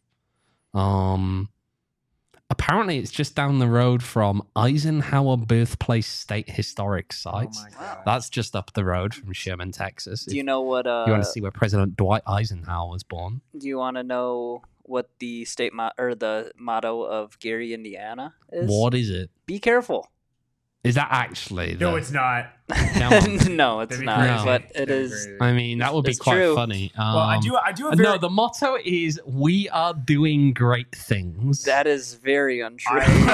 Um, apparently, it's just down the road from Eisenhower Birthplace State Historic Site. Oh my god. That's just up the road from Sherman, Texas. Do you If know what? Uh, you want to see where President Dwight Eisenhower was born? Do you want to know what the state mo- or the motto of Gary, Indiana is? What is it? Be careful. Is that actually? No, the- it's not. on. no, it's That'd be not. crazy. But it That'd be is. crazy. I mean, that would be It's quite true. funny. Um, Well, I do. I do. Have very, no, the motto is "We are doing great things." That is very untrue.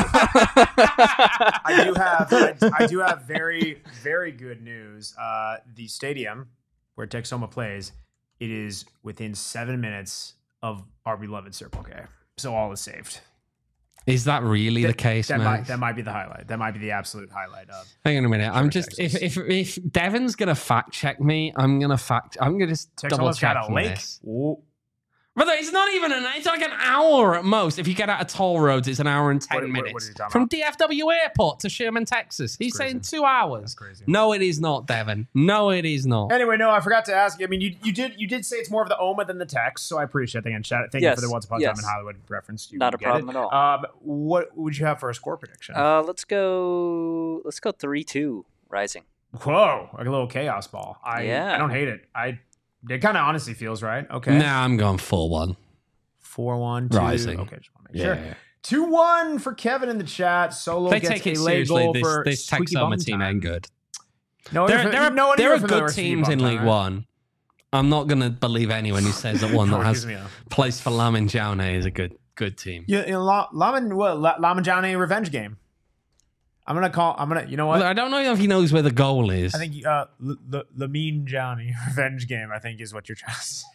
I do have. I, I do have very, very good news. Uh, the stadium where Texoma plays, it is within seven minutes of our beloved Circle K. So all is saved. Is that really the case, that man? might that might be the highlight. That might be the absolute highlight of. Hang on a minute. I'm Sure, just if, Texas. if if Devin's gonna fact check me, I'm gonna fact. I'm gonna just double Texoma's check got a lake. this. Ooh. Brother, it's not even an. It's like an hour at most. If you get out of toll roads, it's an hour and ten What- what- what minutes are you talking from about? D F W Airport to Sherman, Texas. He's crazy. saying two hours. That's crazy. No, it is not, Devin. No, it is not. Anyway, no, I forgot to ask you. I mean, you, you did you did say it's more of the O M A than the Tex, so I appreciate that. And shout, thank Yes, you for the Once Upon a yes. Time in Hollywood reference. You Not a get problem it. at all. Um, what would you have for a score prediction? uh, let's go. Let's go three two Rising. Whoa, like a little chaos ball. I Yeah. I don't hate it. I it kind of honestly feels right. Okay, Nah, I'm going four one. four one two. Rising. Okay, just want to make sure. Two one for Kevin in the chat. Solo They gets take it a late seriously. goal This for this Squeaky Texoma Bum team time. ain't good. No, There, you're- there are, no one there you're are familiar good with Squeaky teams Bum in time, League right? One. I'm not going to believe anyone who says that one that Oh, has excuse me, uh, placed for Lamin Jaune is a good good team. Yeah, you know, La- Lamin what La- Laminjane revenge game. I'm gonna call. I'm gonna. You know what? Well, I don't know if he knows where the goal is. I think uh, L- L- Lamin Johnny revenge game. I think is what you're trying to say.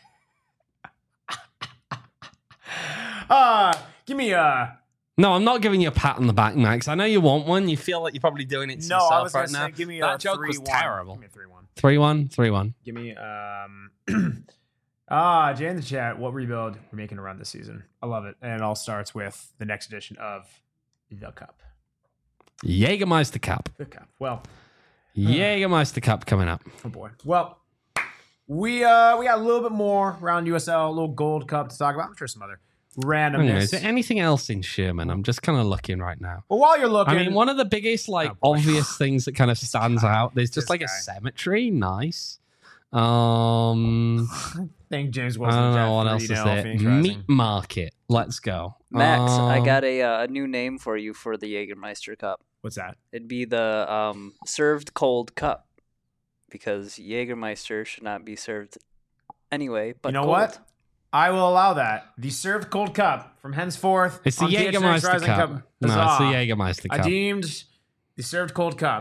uh give me a. No, I'm not giving you a pat on the back, Max. I know you want one. You feel like you're probably doing it to No, yourself I was right gonna now. say, give me that a joke three was one. terrible. Give me a three one. Three one, three one. Give me um. ah, Jay in the chat. What rebuild we're making a run this season? I love it, and it all starts with the next edition of the Cup. Jägermeister Cup. The Cup. Well, Jägermeister Cup coming up. oh boy. Well, we uh we got a little bit more around U S L, a little Gold Cup to talk about. I'm sure some other Hang on, randomness. is there anything else in Sherman? I'm just kind of looking right now. Well, while you're looking, I mean, one of the biggest, like, Oh, boy. obvious things that kind of stands out, there's just This like a guy. cemetery. Nice. Um, I think James I Wilson. don't got know what else three is nil there. Phoenix Rising. Meat Market. Let's go. Max, I Um, got a uh, a new name for you for the Jägermeister Cup. What's that? It'd be the um, served cold cup, because Jägermeister should not be served anyway. But you know cold. what? I will allow that. The served cold cup from henceforth. It's the on T H X Jägermeister Rising Cup. No, it's the Huzzah. Jägermeister I Cup. deemed the served cold cup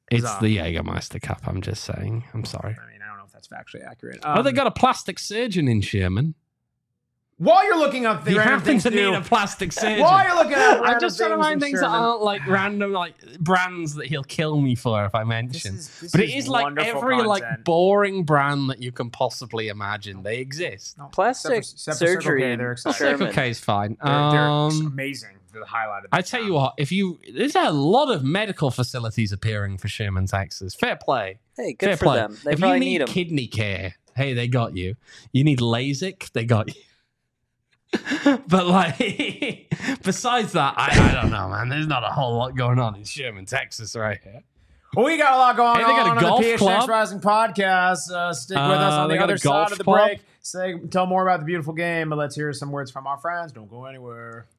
It's Huzzah. the Jägermeister Cup. I'm just saying. I'm sorry. I mean, I don't know if that's factually accurate. oh, they Um, got a plastic surgeon in Sherman. While you're looking up the You random happen things to to need do, a plastic surgeon. while you're looking at I'm random just trying to things find in things that Sherman- aren't like random like brands that he'll kill me for if I This mention. is, this but it is like wonderful every like content. boring brand that you can possibly imagine. They exist. No, Plastic except for- except for Circle surgery K, in they're excited. Sherman. Circle K is fine. They're, they're Um, amazing. They're the highlight of I this tell town. you what, if you there's a lot of medical facilities appearing for Sherman, Texas. Fair play. Hey, good Fair for play. them. They if probably you need need them. kidney care, hey, they got you. You need LASIK, they got you. But like, besides that, I, I don't know, man. There's not a whole lot going on in Sherman, Texas, right here. Well, we got a lot going Hey, they got a on on golf the P H X club. Rising podcast. Uh, stick with us Uh, on they the got a other side golf of the club. break. Say, tell more about the beautiful game, but let's hear some words from our friends. Don't go anywhere.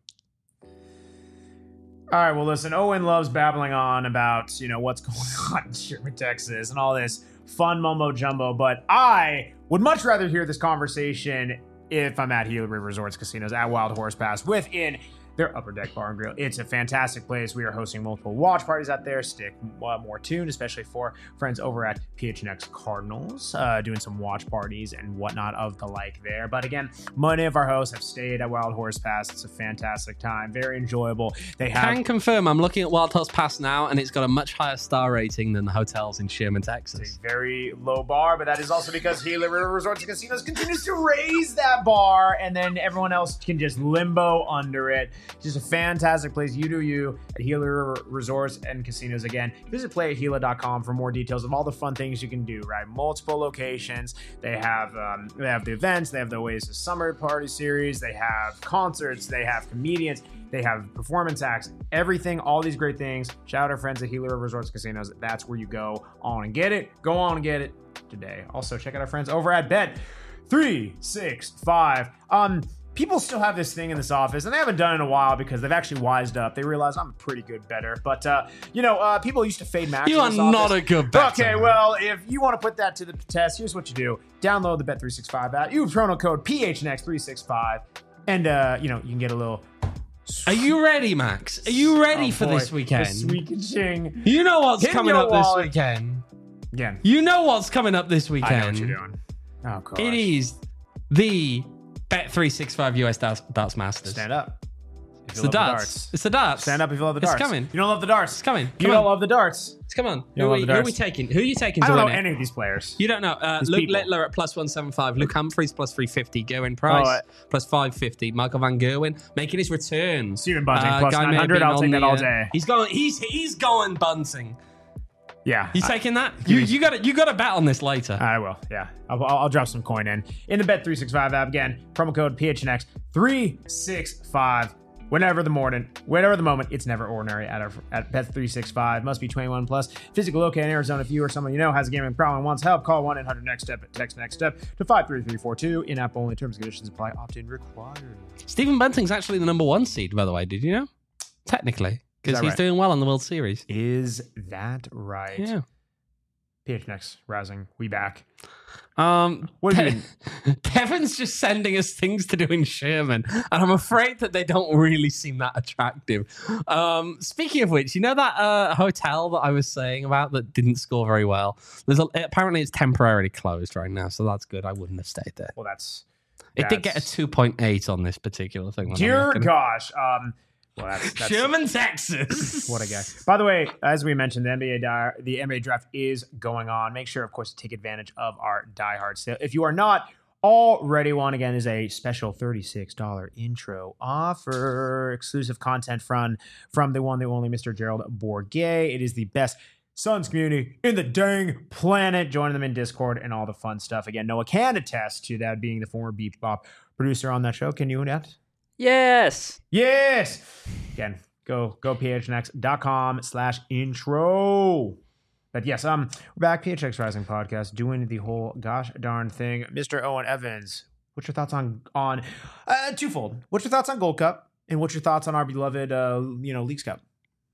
All right, well, listen, Owen loves babbling on about, you know, what's going on in Sherman, Texas and all this fun mumbo jumbo, but I would much rather hear this conversation if I'm at Gila River Resorts Casinos at Wild Horse Pass within their Upper Deck Bar and Grill. It's a fantastic place. We are hosting multiple watch parties out there. Stick uh, more tuned, especially for friends over at P H N X Cardinals, uh, doing some watch parties and whatnot of the like there. But again, many of our hosts have stayed at Wild Horse Pass. It's a fantastic time, very enjoyable. They have Can confirm, I'm looking at Wild Horse Pass now, and it's got a much higher star rating than the hotels in Sherman, Texas. a very low bar, but that is also because Gila River Resorts and Casinos continues to raise that bar, and then everyone else can just limbo under it. Just a fantastic place. You do you at Gila River Resorts and Casinos. Again, visit play at gila dot com for more details of all the fun things you can do, right? Multiple locations. They have um, they have the events. They have the Oasis Summer Party Series. They have concerts. They have comedians. They have performance acts. Everything, all these great things. Shout out our friends at Gila River Resorts Casinos. That's where you go on and get it. Go on and get it today. Also, check out our friends over at Bet three sixty-five. Um, people still have this thing in this office, and they haven't done it in a while because they've actually wised up. They realize I'm a pretty good bettor. But, uh, you know, uh, people used to fade max. You in are this not office. a good bettor. Okay, well, if you want to put that to the test, here's what you do. Download the Bet three sixty-five app. Use promo code P H N X three sixty-five, and, uh, you know, you can get a little... Are you ready, Max? Are you ready Oh, for boy, this weekend? The sweet and ching. You know what's Hit coming your up wallet. this weekend. Again, You know what's coming up this weekend. I know what you're doing. Oh, gosh. It is the Bet three sixty-five U S Darts, Darts Masters. Stand up. If It's you the love darts. It's the darts. Stand up if you love the It's darts. coming. You don't love the darts. It's coming. You Come don't on. love the darts. Come on. You Who don't are, love we, the who are we darts. taking? Who are you taking I to don't know win it? any of these players. You don't know. Uh, These Luke people. Littler at plus one seventy-five. Luke Humphreys plus three fifty. Gerwin Price Oh, uh, plus five fifty. Michael Van Gerwen making his return. Stephen Bunting Uh, plus guy may have 900. been I'll on take that the, all uh, day. He's going. He's he's going Bunting. Yeah. You taking that? You you got to you got to bet on this later. I will, yeah. I'll, I'll, I'll drop some coin in. In the Bet three sixty-five app, again, promo code P H N X three sixty-five. Whenever the morning, whenever the moment, it's never ordinary at, our, at Bet three sixty-five. Must be twenty-one plus. Physical located in Arizona. If you or someone you know has a gambling problem and wants help, call one eight hundred next step. Text next step to five three three four two. In-app only. Terms and conditions apply. Opt-in required. Stephen Bunting's actually the number one seed, by the way. Did you know? Technically, because that he's right? doing well in the World Series. Is that right? Yeah. P H N X Rising. We back. Um, What do you Pe- Kevin's just sending us things to do in Sherman, and I'm afraid that they don't really seem that attractive. Um, speaking of which, you know that uh, hotel that I was saying about that didn't score very well? There's a, apparently it's temporarily closed right now, so that's good. I wouldn't have stayed there. Well, that's. It did get a that's- two point eight on this particular thing. when I'm Dear looking. gosh. Um. Well, that's, that's Sherman, Texas. What a guy. By the way, as we mentioned, the N B A di- the N B A draft is going on. Make sure, of course, to take advantage of our Die Hard sale. If you are not already one, again, is a special thirty-six dollars intro offer. Exclusive content from, from the one, the only Mister Gerald Bourguet. It is the best Suns community in the dang planet. Join them in Discord and all the fun stuff. Again, Noah can attest to that, being the former Beep Bop producer on that show. Can you attest? Yes. Yes. Again, go go phnx.com slash intro. But yes, um, we're back, P H X Rising Podcast, doing the whole gosh darn thing. Mister Owen Evans, what's your thoughts on on uh, twofold? What's your thoughts on Gold Cup, and what's your thoughts on our beloved uh, you know Leagues Cup?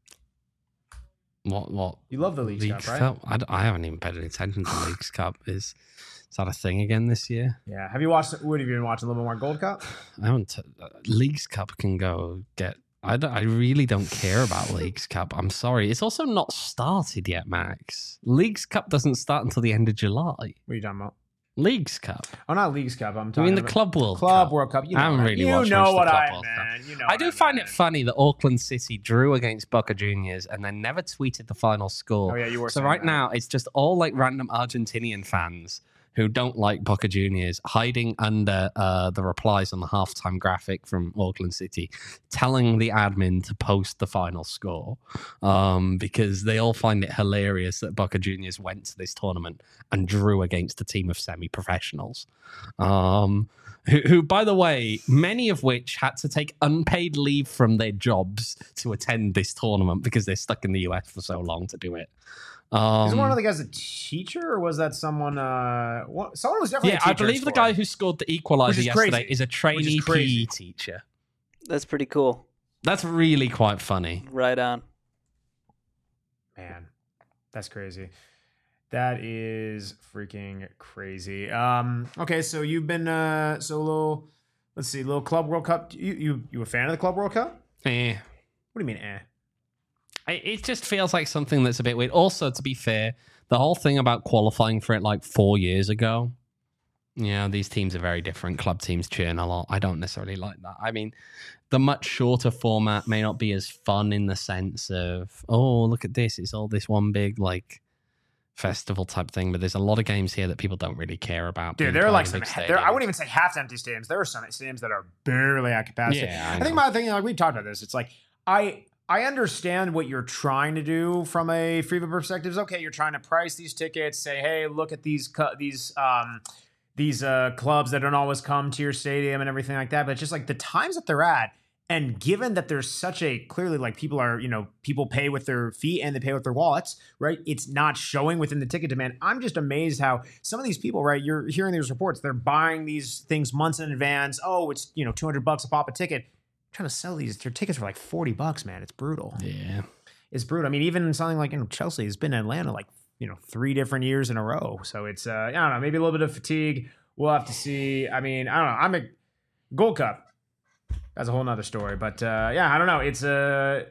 What? What? You love the Leagues, Leagues Cup, right? Cup? I, d- I haven't even paid any attention to Leagues Cup. Is is that a thing again this year? Yeah. Have you watched? What have you been watching? A little bit more Gold Cup? I haven't. T- uh, Leagues Cup can go get I, don't, I really don't care about Leagues Cup. I'm sorry. It's also not started yet, Max. Leagues Cup doesn't start until the end of July. What are you talking about? Leagues Cup. Oh, not Leagues Cup. I'm I talking mean the about Club World Club Cup. World Cup. You know I haven't what really you watched know much of what the Club I World Cup. meant. You know I what do I find meant. it funny that Auckland City drew against Boca Juniors and then never tweeted the final score. Oh yeah, you were. So saying right that. now, it's just all like random Argentinian fans who don't like Boca Juniors hiding under uh, the replies on the halftime graphic from Auckland City, telling the admin to post the final score um, because they all find it hilarious that Boca Juniors went to this tournament and drew against a team of semi-professionals. Um, who, who, by the way, many of which had to take unpaid leave from their jobs to attend this tournament because they're stuck in the U S for so long to do it. Um, Is one of the guys a teacher, or was that someone? Uh, what, someone was definitely. yeah, a teacher I believe in the sport. guy who scored the equalizer Which is yesterday crazy. is a trainee P crazy. E teacher. That's pretty cool. That's really quite funny. Right on. Man, that's crazy. That is freaking crazy. Um, okay, so you've been uh, so little. Let's see, little Club World Cup. You you you a fan of the Club World Cup? Eh. What do you mean, eh? I- It just feels like something that's a bit weird. Also, to be fair, the whole thing about qualifying for it like four years ago, you know, these teams are very different. Club teams churn a lot. I don't necessarily like that. I mean, the much shorter format may not be as fun in the sense of, oh, look at this. It's all this one big, like, festival type thing. But there's a lot of games here that people don't really care about. Dude, being there are played like in some. big There, I stadiums. wouldn't even say half empty stadiums. There are some stadiums that are barely at capacity. Yeah, I I, think know. my thing, like we talked about this. It's like I I understand what you're trying to do from a FIFA perspective. Is okay, you're trying to price these tickets. Say, hey, look at these cu- these um these uh clubs that don't always come to your stadium and everything like that. But it's just like the times that they're at. And given that there's such a clearly like people are, you know, people pay with their feet and they pay with their wallets, right? It's not showing within the ticket demand. I'm just amazed how some of these people, right? You're hearing these reports, they're buying these things months in advance. Oh, it's, you know, two hundred bucks a pop a ticket. Trying to sell these their tickets for like forty bucks, man. It's brutal. Yeah. It's brutal. I mean, even something like, you know, Chelsea has been in Atlanta like, you know, three different years in a row. So it's, uh, I don't know, maybe a little bit of fatigue. We'll have to see. I mean, I don't know. I'm a Gold Cup. That's a whole nother story. But uh, yeah, I don't know. It's a,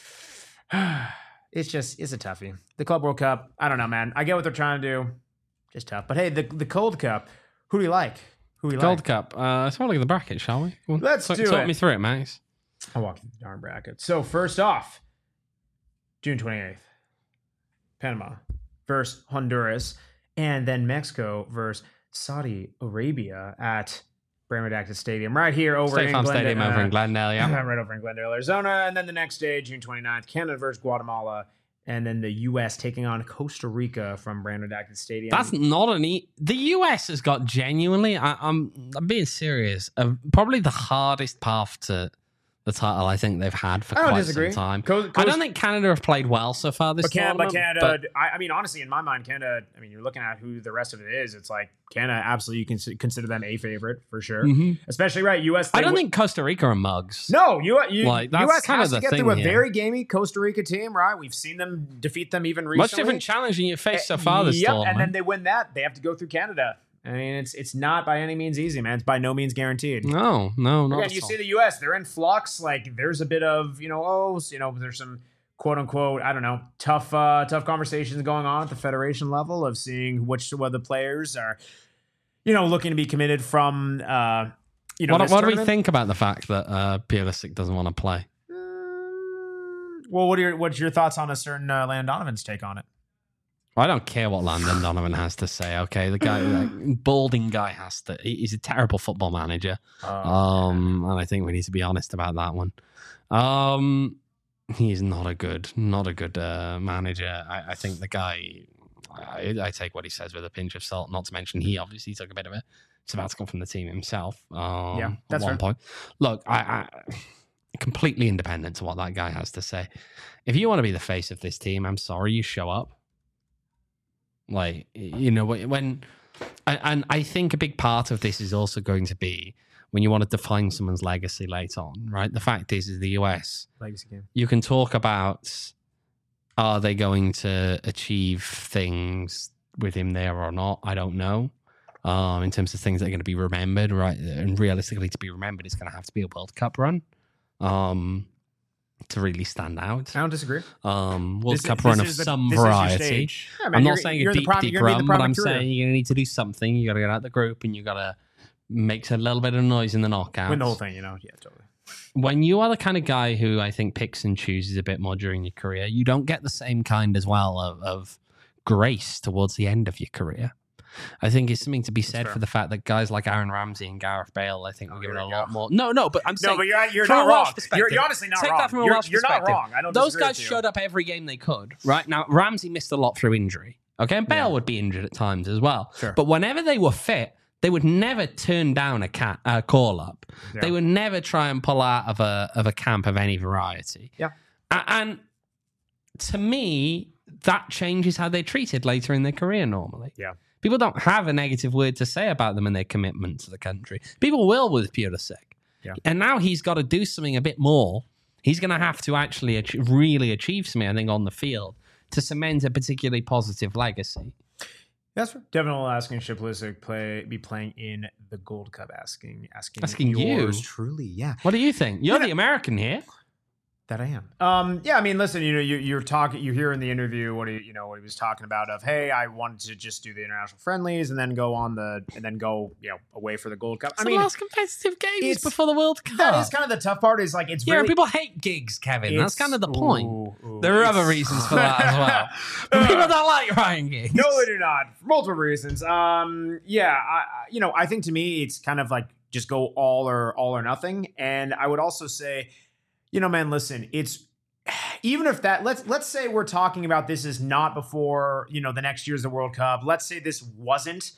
it's just, it's a toughie. The Club World Cup, I don't know, man. I get what they're trying to do. Just tough. But hey, the the Cold Cup, who do you like? Who do you Gold like? Cup. Uh, let's have a look at the bracket, shall we? Go on. Let's talk, do talk it. me through it, Max. I'll walk you through the darn bracket. So first off, June twenty-eighth, Panama versus Honduras, and then Mexico versus Saudi Arabia at Brand Redacted Stadium right here over State in Farm Glendale, Stadium over in Glendale, yeah. right over in Glendale, Arizona. And then the next day, June twenty-ninth, Canada versus Guatemala, and then the U S taking on Costa Rica from Brand Redacted Stadium. That's not an e- the U S has got genuinely. I, I'm I'm being serious. Uh, probably the hardest path to the title I think they've had for I don't quite disagree. some time. Co- I Co- don't think Canada have played well so far this But, Can- but tournament. Canada, I, I mean, honestly, in my mind, Canada, I mean, you're looking at who the rest of it is. It's like Canada, absolutely, you can s- consider them a favorite for sure. Mhm. Especially, right, U S. I they don't w- think Costa Rica are mugs. No, U- you, Like, that's U S kind has of to the get through a thing here. very gamey Costa Rica team, right? We've seen them defeat them even recently. Much different challenge than you faced so far this Yep, tournament. and then they win that. They have to go through Canada. I mean, it's it's not by any means easy, man. It's by no means guaranteed. no, no, not Again, at you all. see the U S, they're in flux. Like, there's a bit of, you know, oh, you know, there's some quote unquote, I don't know, tough, uh, tough conversations going on at the federation level of seeing which of the players are, you know, looking to be committed from, uh, you know, what this what do we tournament. think about the fact that uh, Pulisic doesn't want to play? Mm, Well, what are your, what's your thoughts on a certain uh, Landon Donovan's take on it? I don't care what Landon Donovan has to say. Okay, the guy, like, balding guy, has to. he- He's a terrible football manager. Oh, Um, and I think we need to be honest about that one. Um, he's not a good, not a good uh, manager. I, I think the guy. I, I take what he says with a pinch of salt. Not to mention he obviously took a bit of a sabbatical from the team himself. Um, Yeah, that's at one fair. point. Look, I, I completely independent to what that guy has to say. If you want to be the face of this team, I'm sorry, you show up. Like, you know, when, and, and I think a big part of this is also going to be when you want to define someone's legacy later on, right? The fact is, is the U S, legacy game. you can talk about, are they going to achieve things with him there or not? I don't know. Um, in terms of things that are going to be remembered, right? And realistically, to be remembered, it's going to have to be a World Cup run. Um, to really stand out. I don't disagree. Um, World This is- Cup this run of is the- some this is your variety. stage. Yeah, man, I'm you're- not saying you're a the deep, prime- deep you're gonna be the run, prime but I'm of career. saying you're going to need to do something. You got to get out the group and you got to make a little bit of noise in the knockouts. Win the whole thing, you know? Yeah, totally. When you are the kind of guy who I think picks and chooses a bit more during your career, you don't get the same kind as well of, of grace towards the end of your career. I think it's something to be said fair. for the fact that guys like Aaron Ramsey and Gareth Bale, I think, Oh, were given here a we lot go. more. No, no, but I'm No, saying but you're, you're from not a Welsh wrong. perspective. You're, you're honestly not Take wrong. that from a you're, Welsh you're not perspective. wrong. I don't Those disagree guys with you. showed up every game they could, right? Now, Ramsey missed a lot through injury, okay? And Bale Yeah. would be injured at times as well. Sure. But whenever they were fit, they would never turn down a cat, uh, call up. Yeah. They would never try and pull out of a of a camp of any variety. Yeah. A- And to me, that changes how they're treated later in their career normally. Yeah. People don't have a negative word to say about them and their commitment to the country. People will with Pulisic. Yeah. And now he's got to do something a bit more. He's going to have to actually ach- really achieve something, I think, on the field to cement a particularly positive legacy. That's right. Devin will asking should Pulisic play be playing in the Gold Cup? Asking asking, Asking you? yours truly. Yeah, What do you think? You're Yeah. the American here. that I am. Um, yeah, I mean, listen, you know, you, you're talking, you hear in the interview what he, you know, what he was talking about of, hey, I wanted to just do the international friendlies and then go on the, and then go, you know, away for the Gold Cup. It's I the mean, last competitive games it's- before the World Cup. that is kind of the tough part. Is like it's yeah, really, people hate gigs, Kevin. That's it's- kind of the point. ooh, ooh, There are other it's- reasons for that as well. But people don't like Ryan Giggs. No, they do not. For multiple reasons. Um, yeah, I, I- you know, I think to me it's kind of like just go all or all or nothing. And I would also say, you know, man, listen, it's even if that let's let's say we're talking about this is not before, you know, the next year's the World Cup. Let's say this wasn't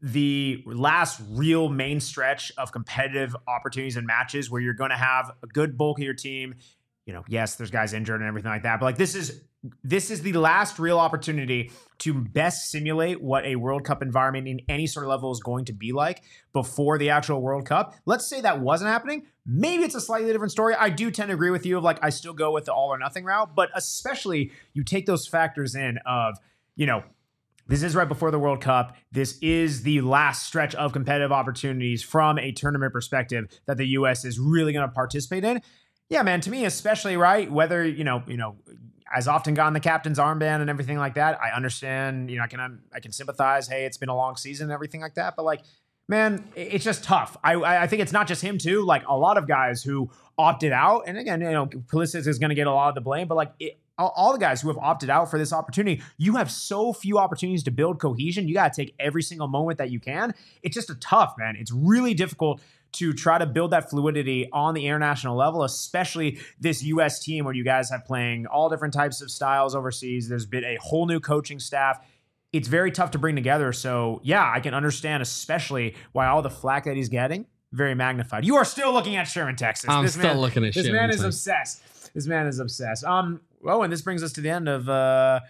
the last real main stretch of competitive opportunities and matches where you're going to have a good bulk of your team. You know, yes, there's guys injured and everything like that, but like this is this is the last real opportunity to best simulate what a World Cup environment in any sort of level is going to be like before the actual World Cup. Let's say that wasn't happening. Maybe it's a slightly different story. I do tend to agree with you of like, I still go with the all or nothing route, but especially you take those factors in of, you know, this is right before the World Cup. This is the last stretch of competitive opportunities from a tournament perspective that the U S is really going to participate in. Yeah, man, to me, especially, right, whether, you know, you know, as often gotten the captain's armband and everything like that, I understand, you know, I can, I can sympathize. Hey, it's been a long season and everything like that. But like, man, it's just tough. I, I think it's not just him too. Like a lot of guys who opted out, and again, you know, Pulisic is going to get a lot of the blame, but like it, all, all the guys who have opted out for this opportunity, you have so few opportunities to build cohesion. You got to take every single moment that you can. It's just a tough, man. It's really difficult to try to build that fluidity on the international level, especially this U S team where you guys have playing all different types of styles overseas. There's been a whole new coaching staff. It's very tough to bring together. So yeah, I can understand especially why all the flack that he's getting, very magnified. You are still looking at Sherman, Texas. I'm this still man, looking at This Sherman, man is too. obsessed. This man is obsessed. Um, oh, and this brings us to the end of uh,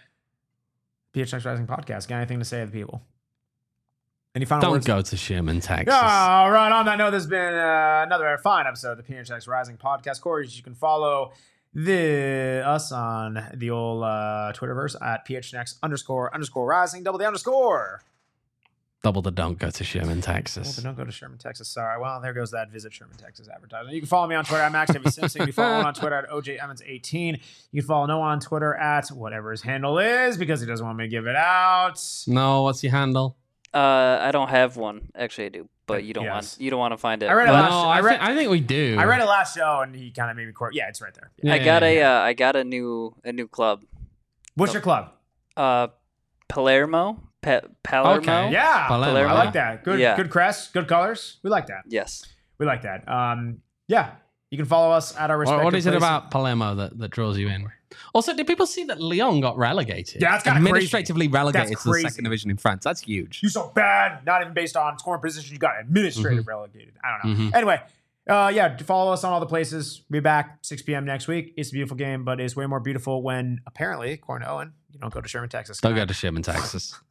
P H X Rising podcast. Got anything to say to the people? Any final Don't words? go to Sherman, Texas. All right. On that note, there's been uh, another fine episode of the P H X Rising podcast. Corey, you can follow the us on the old uh, Twitterverse at P H X underscore underscore rising. Double the underscore. Double the don't go to Sherman, Well, Texas. then don't go to Sherman, Texas. Sorry. Well, there goes that Visit Sherman, Texas advertisement. You can follow me on Twitter at Max W Simpson. You can follow Owen on Twitter at O J Emmons eighteen. You can follow Noah on Twitter at whatever his handle is because he doesn't want me to give it out. No, what's your handle? Uh, I don't have one. Actually, I do, but you don't Yes. want you don't want to find it. I read No, it But last- I, I read- thi- I think we do. I read it last show and he kind of made me quote. Yeah, it's right there. Yeah, I got yeah, a yeah. uh, I got a new a new club. What's your club? Uh, Palermo. Pa- Palermo. Okay. Yeah, Palermo. I like that. Good, Yeah. good crest, good colors. We like that. Yes. We like that. Um, yeah, you can follow us at our What, respective what is it places. about Palermo that, that draws you in? Also, did people see that Lyon got relegated? Yeah, that's kinda administratively relegated That's to the crazy. second division in France. That's huge. You so bad, not even based on scoring position. You got administrative relegated. I don't know. Mhm. Anyway, uh, yeah, follow us on all the places. We'll be back six p.m. next week. It's a beautiful game, but it's way more beautiful when apparently, according to Owen, you don't go to Sherman, Texas. Don't go to Sherman, Texas.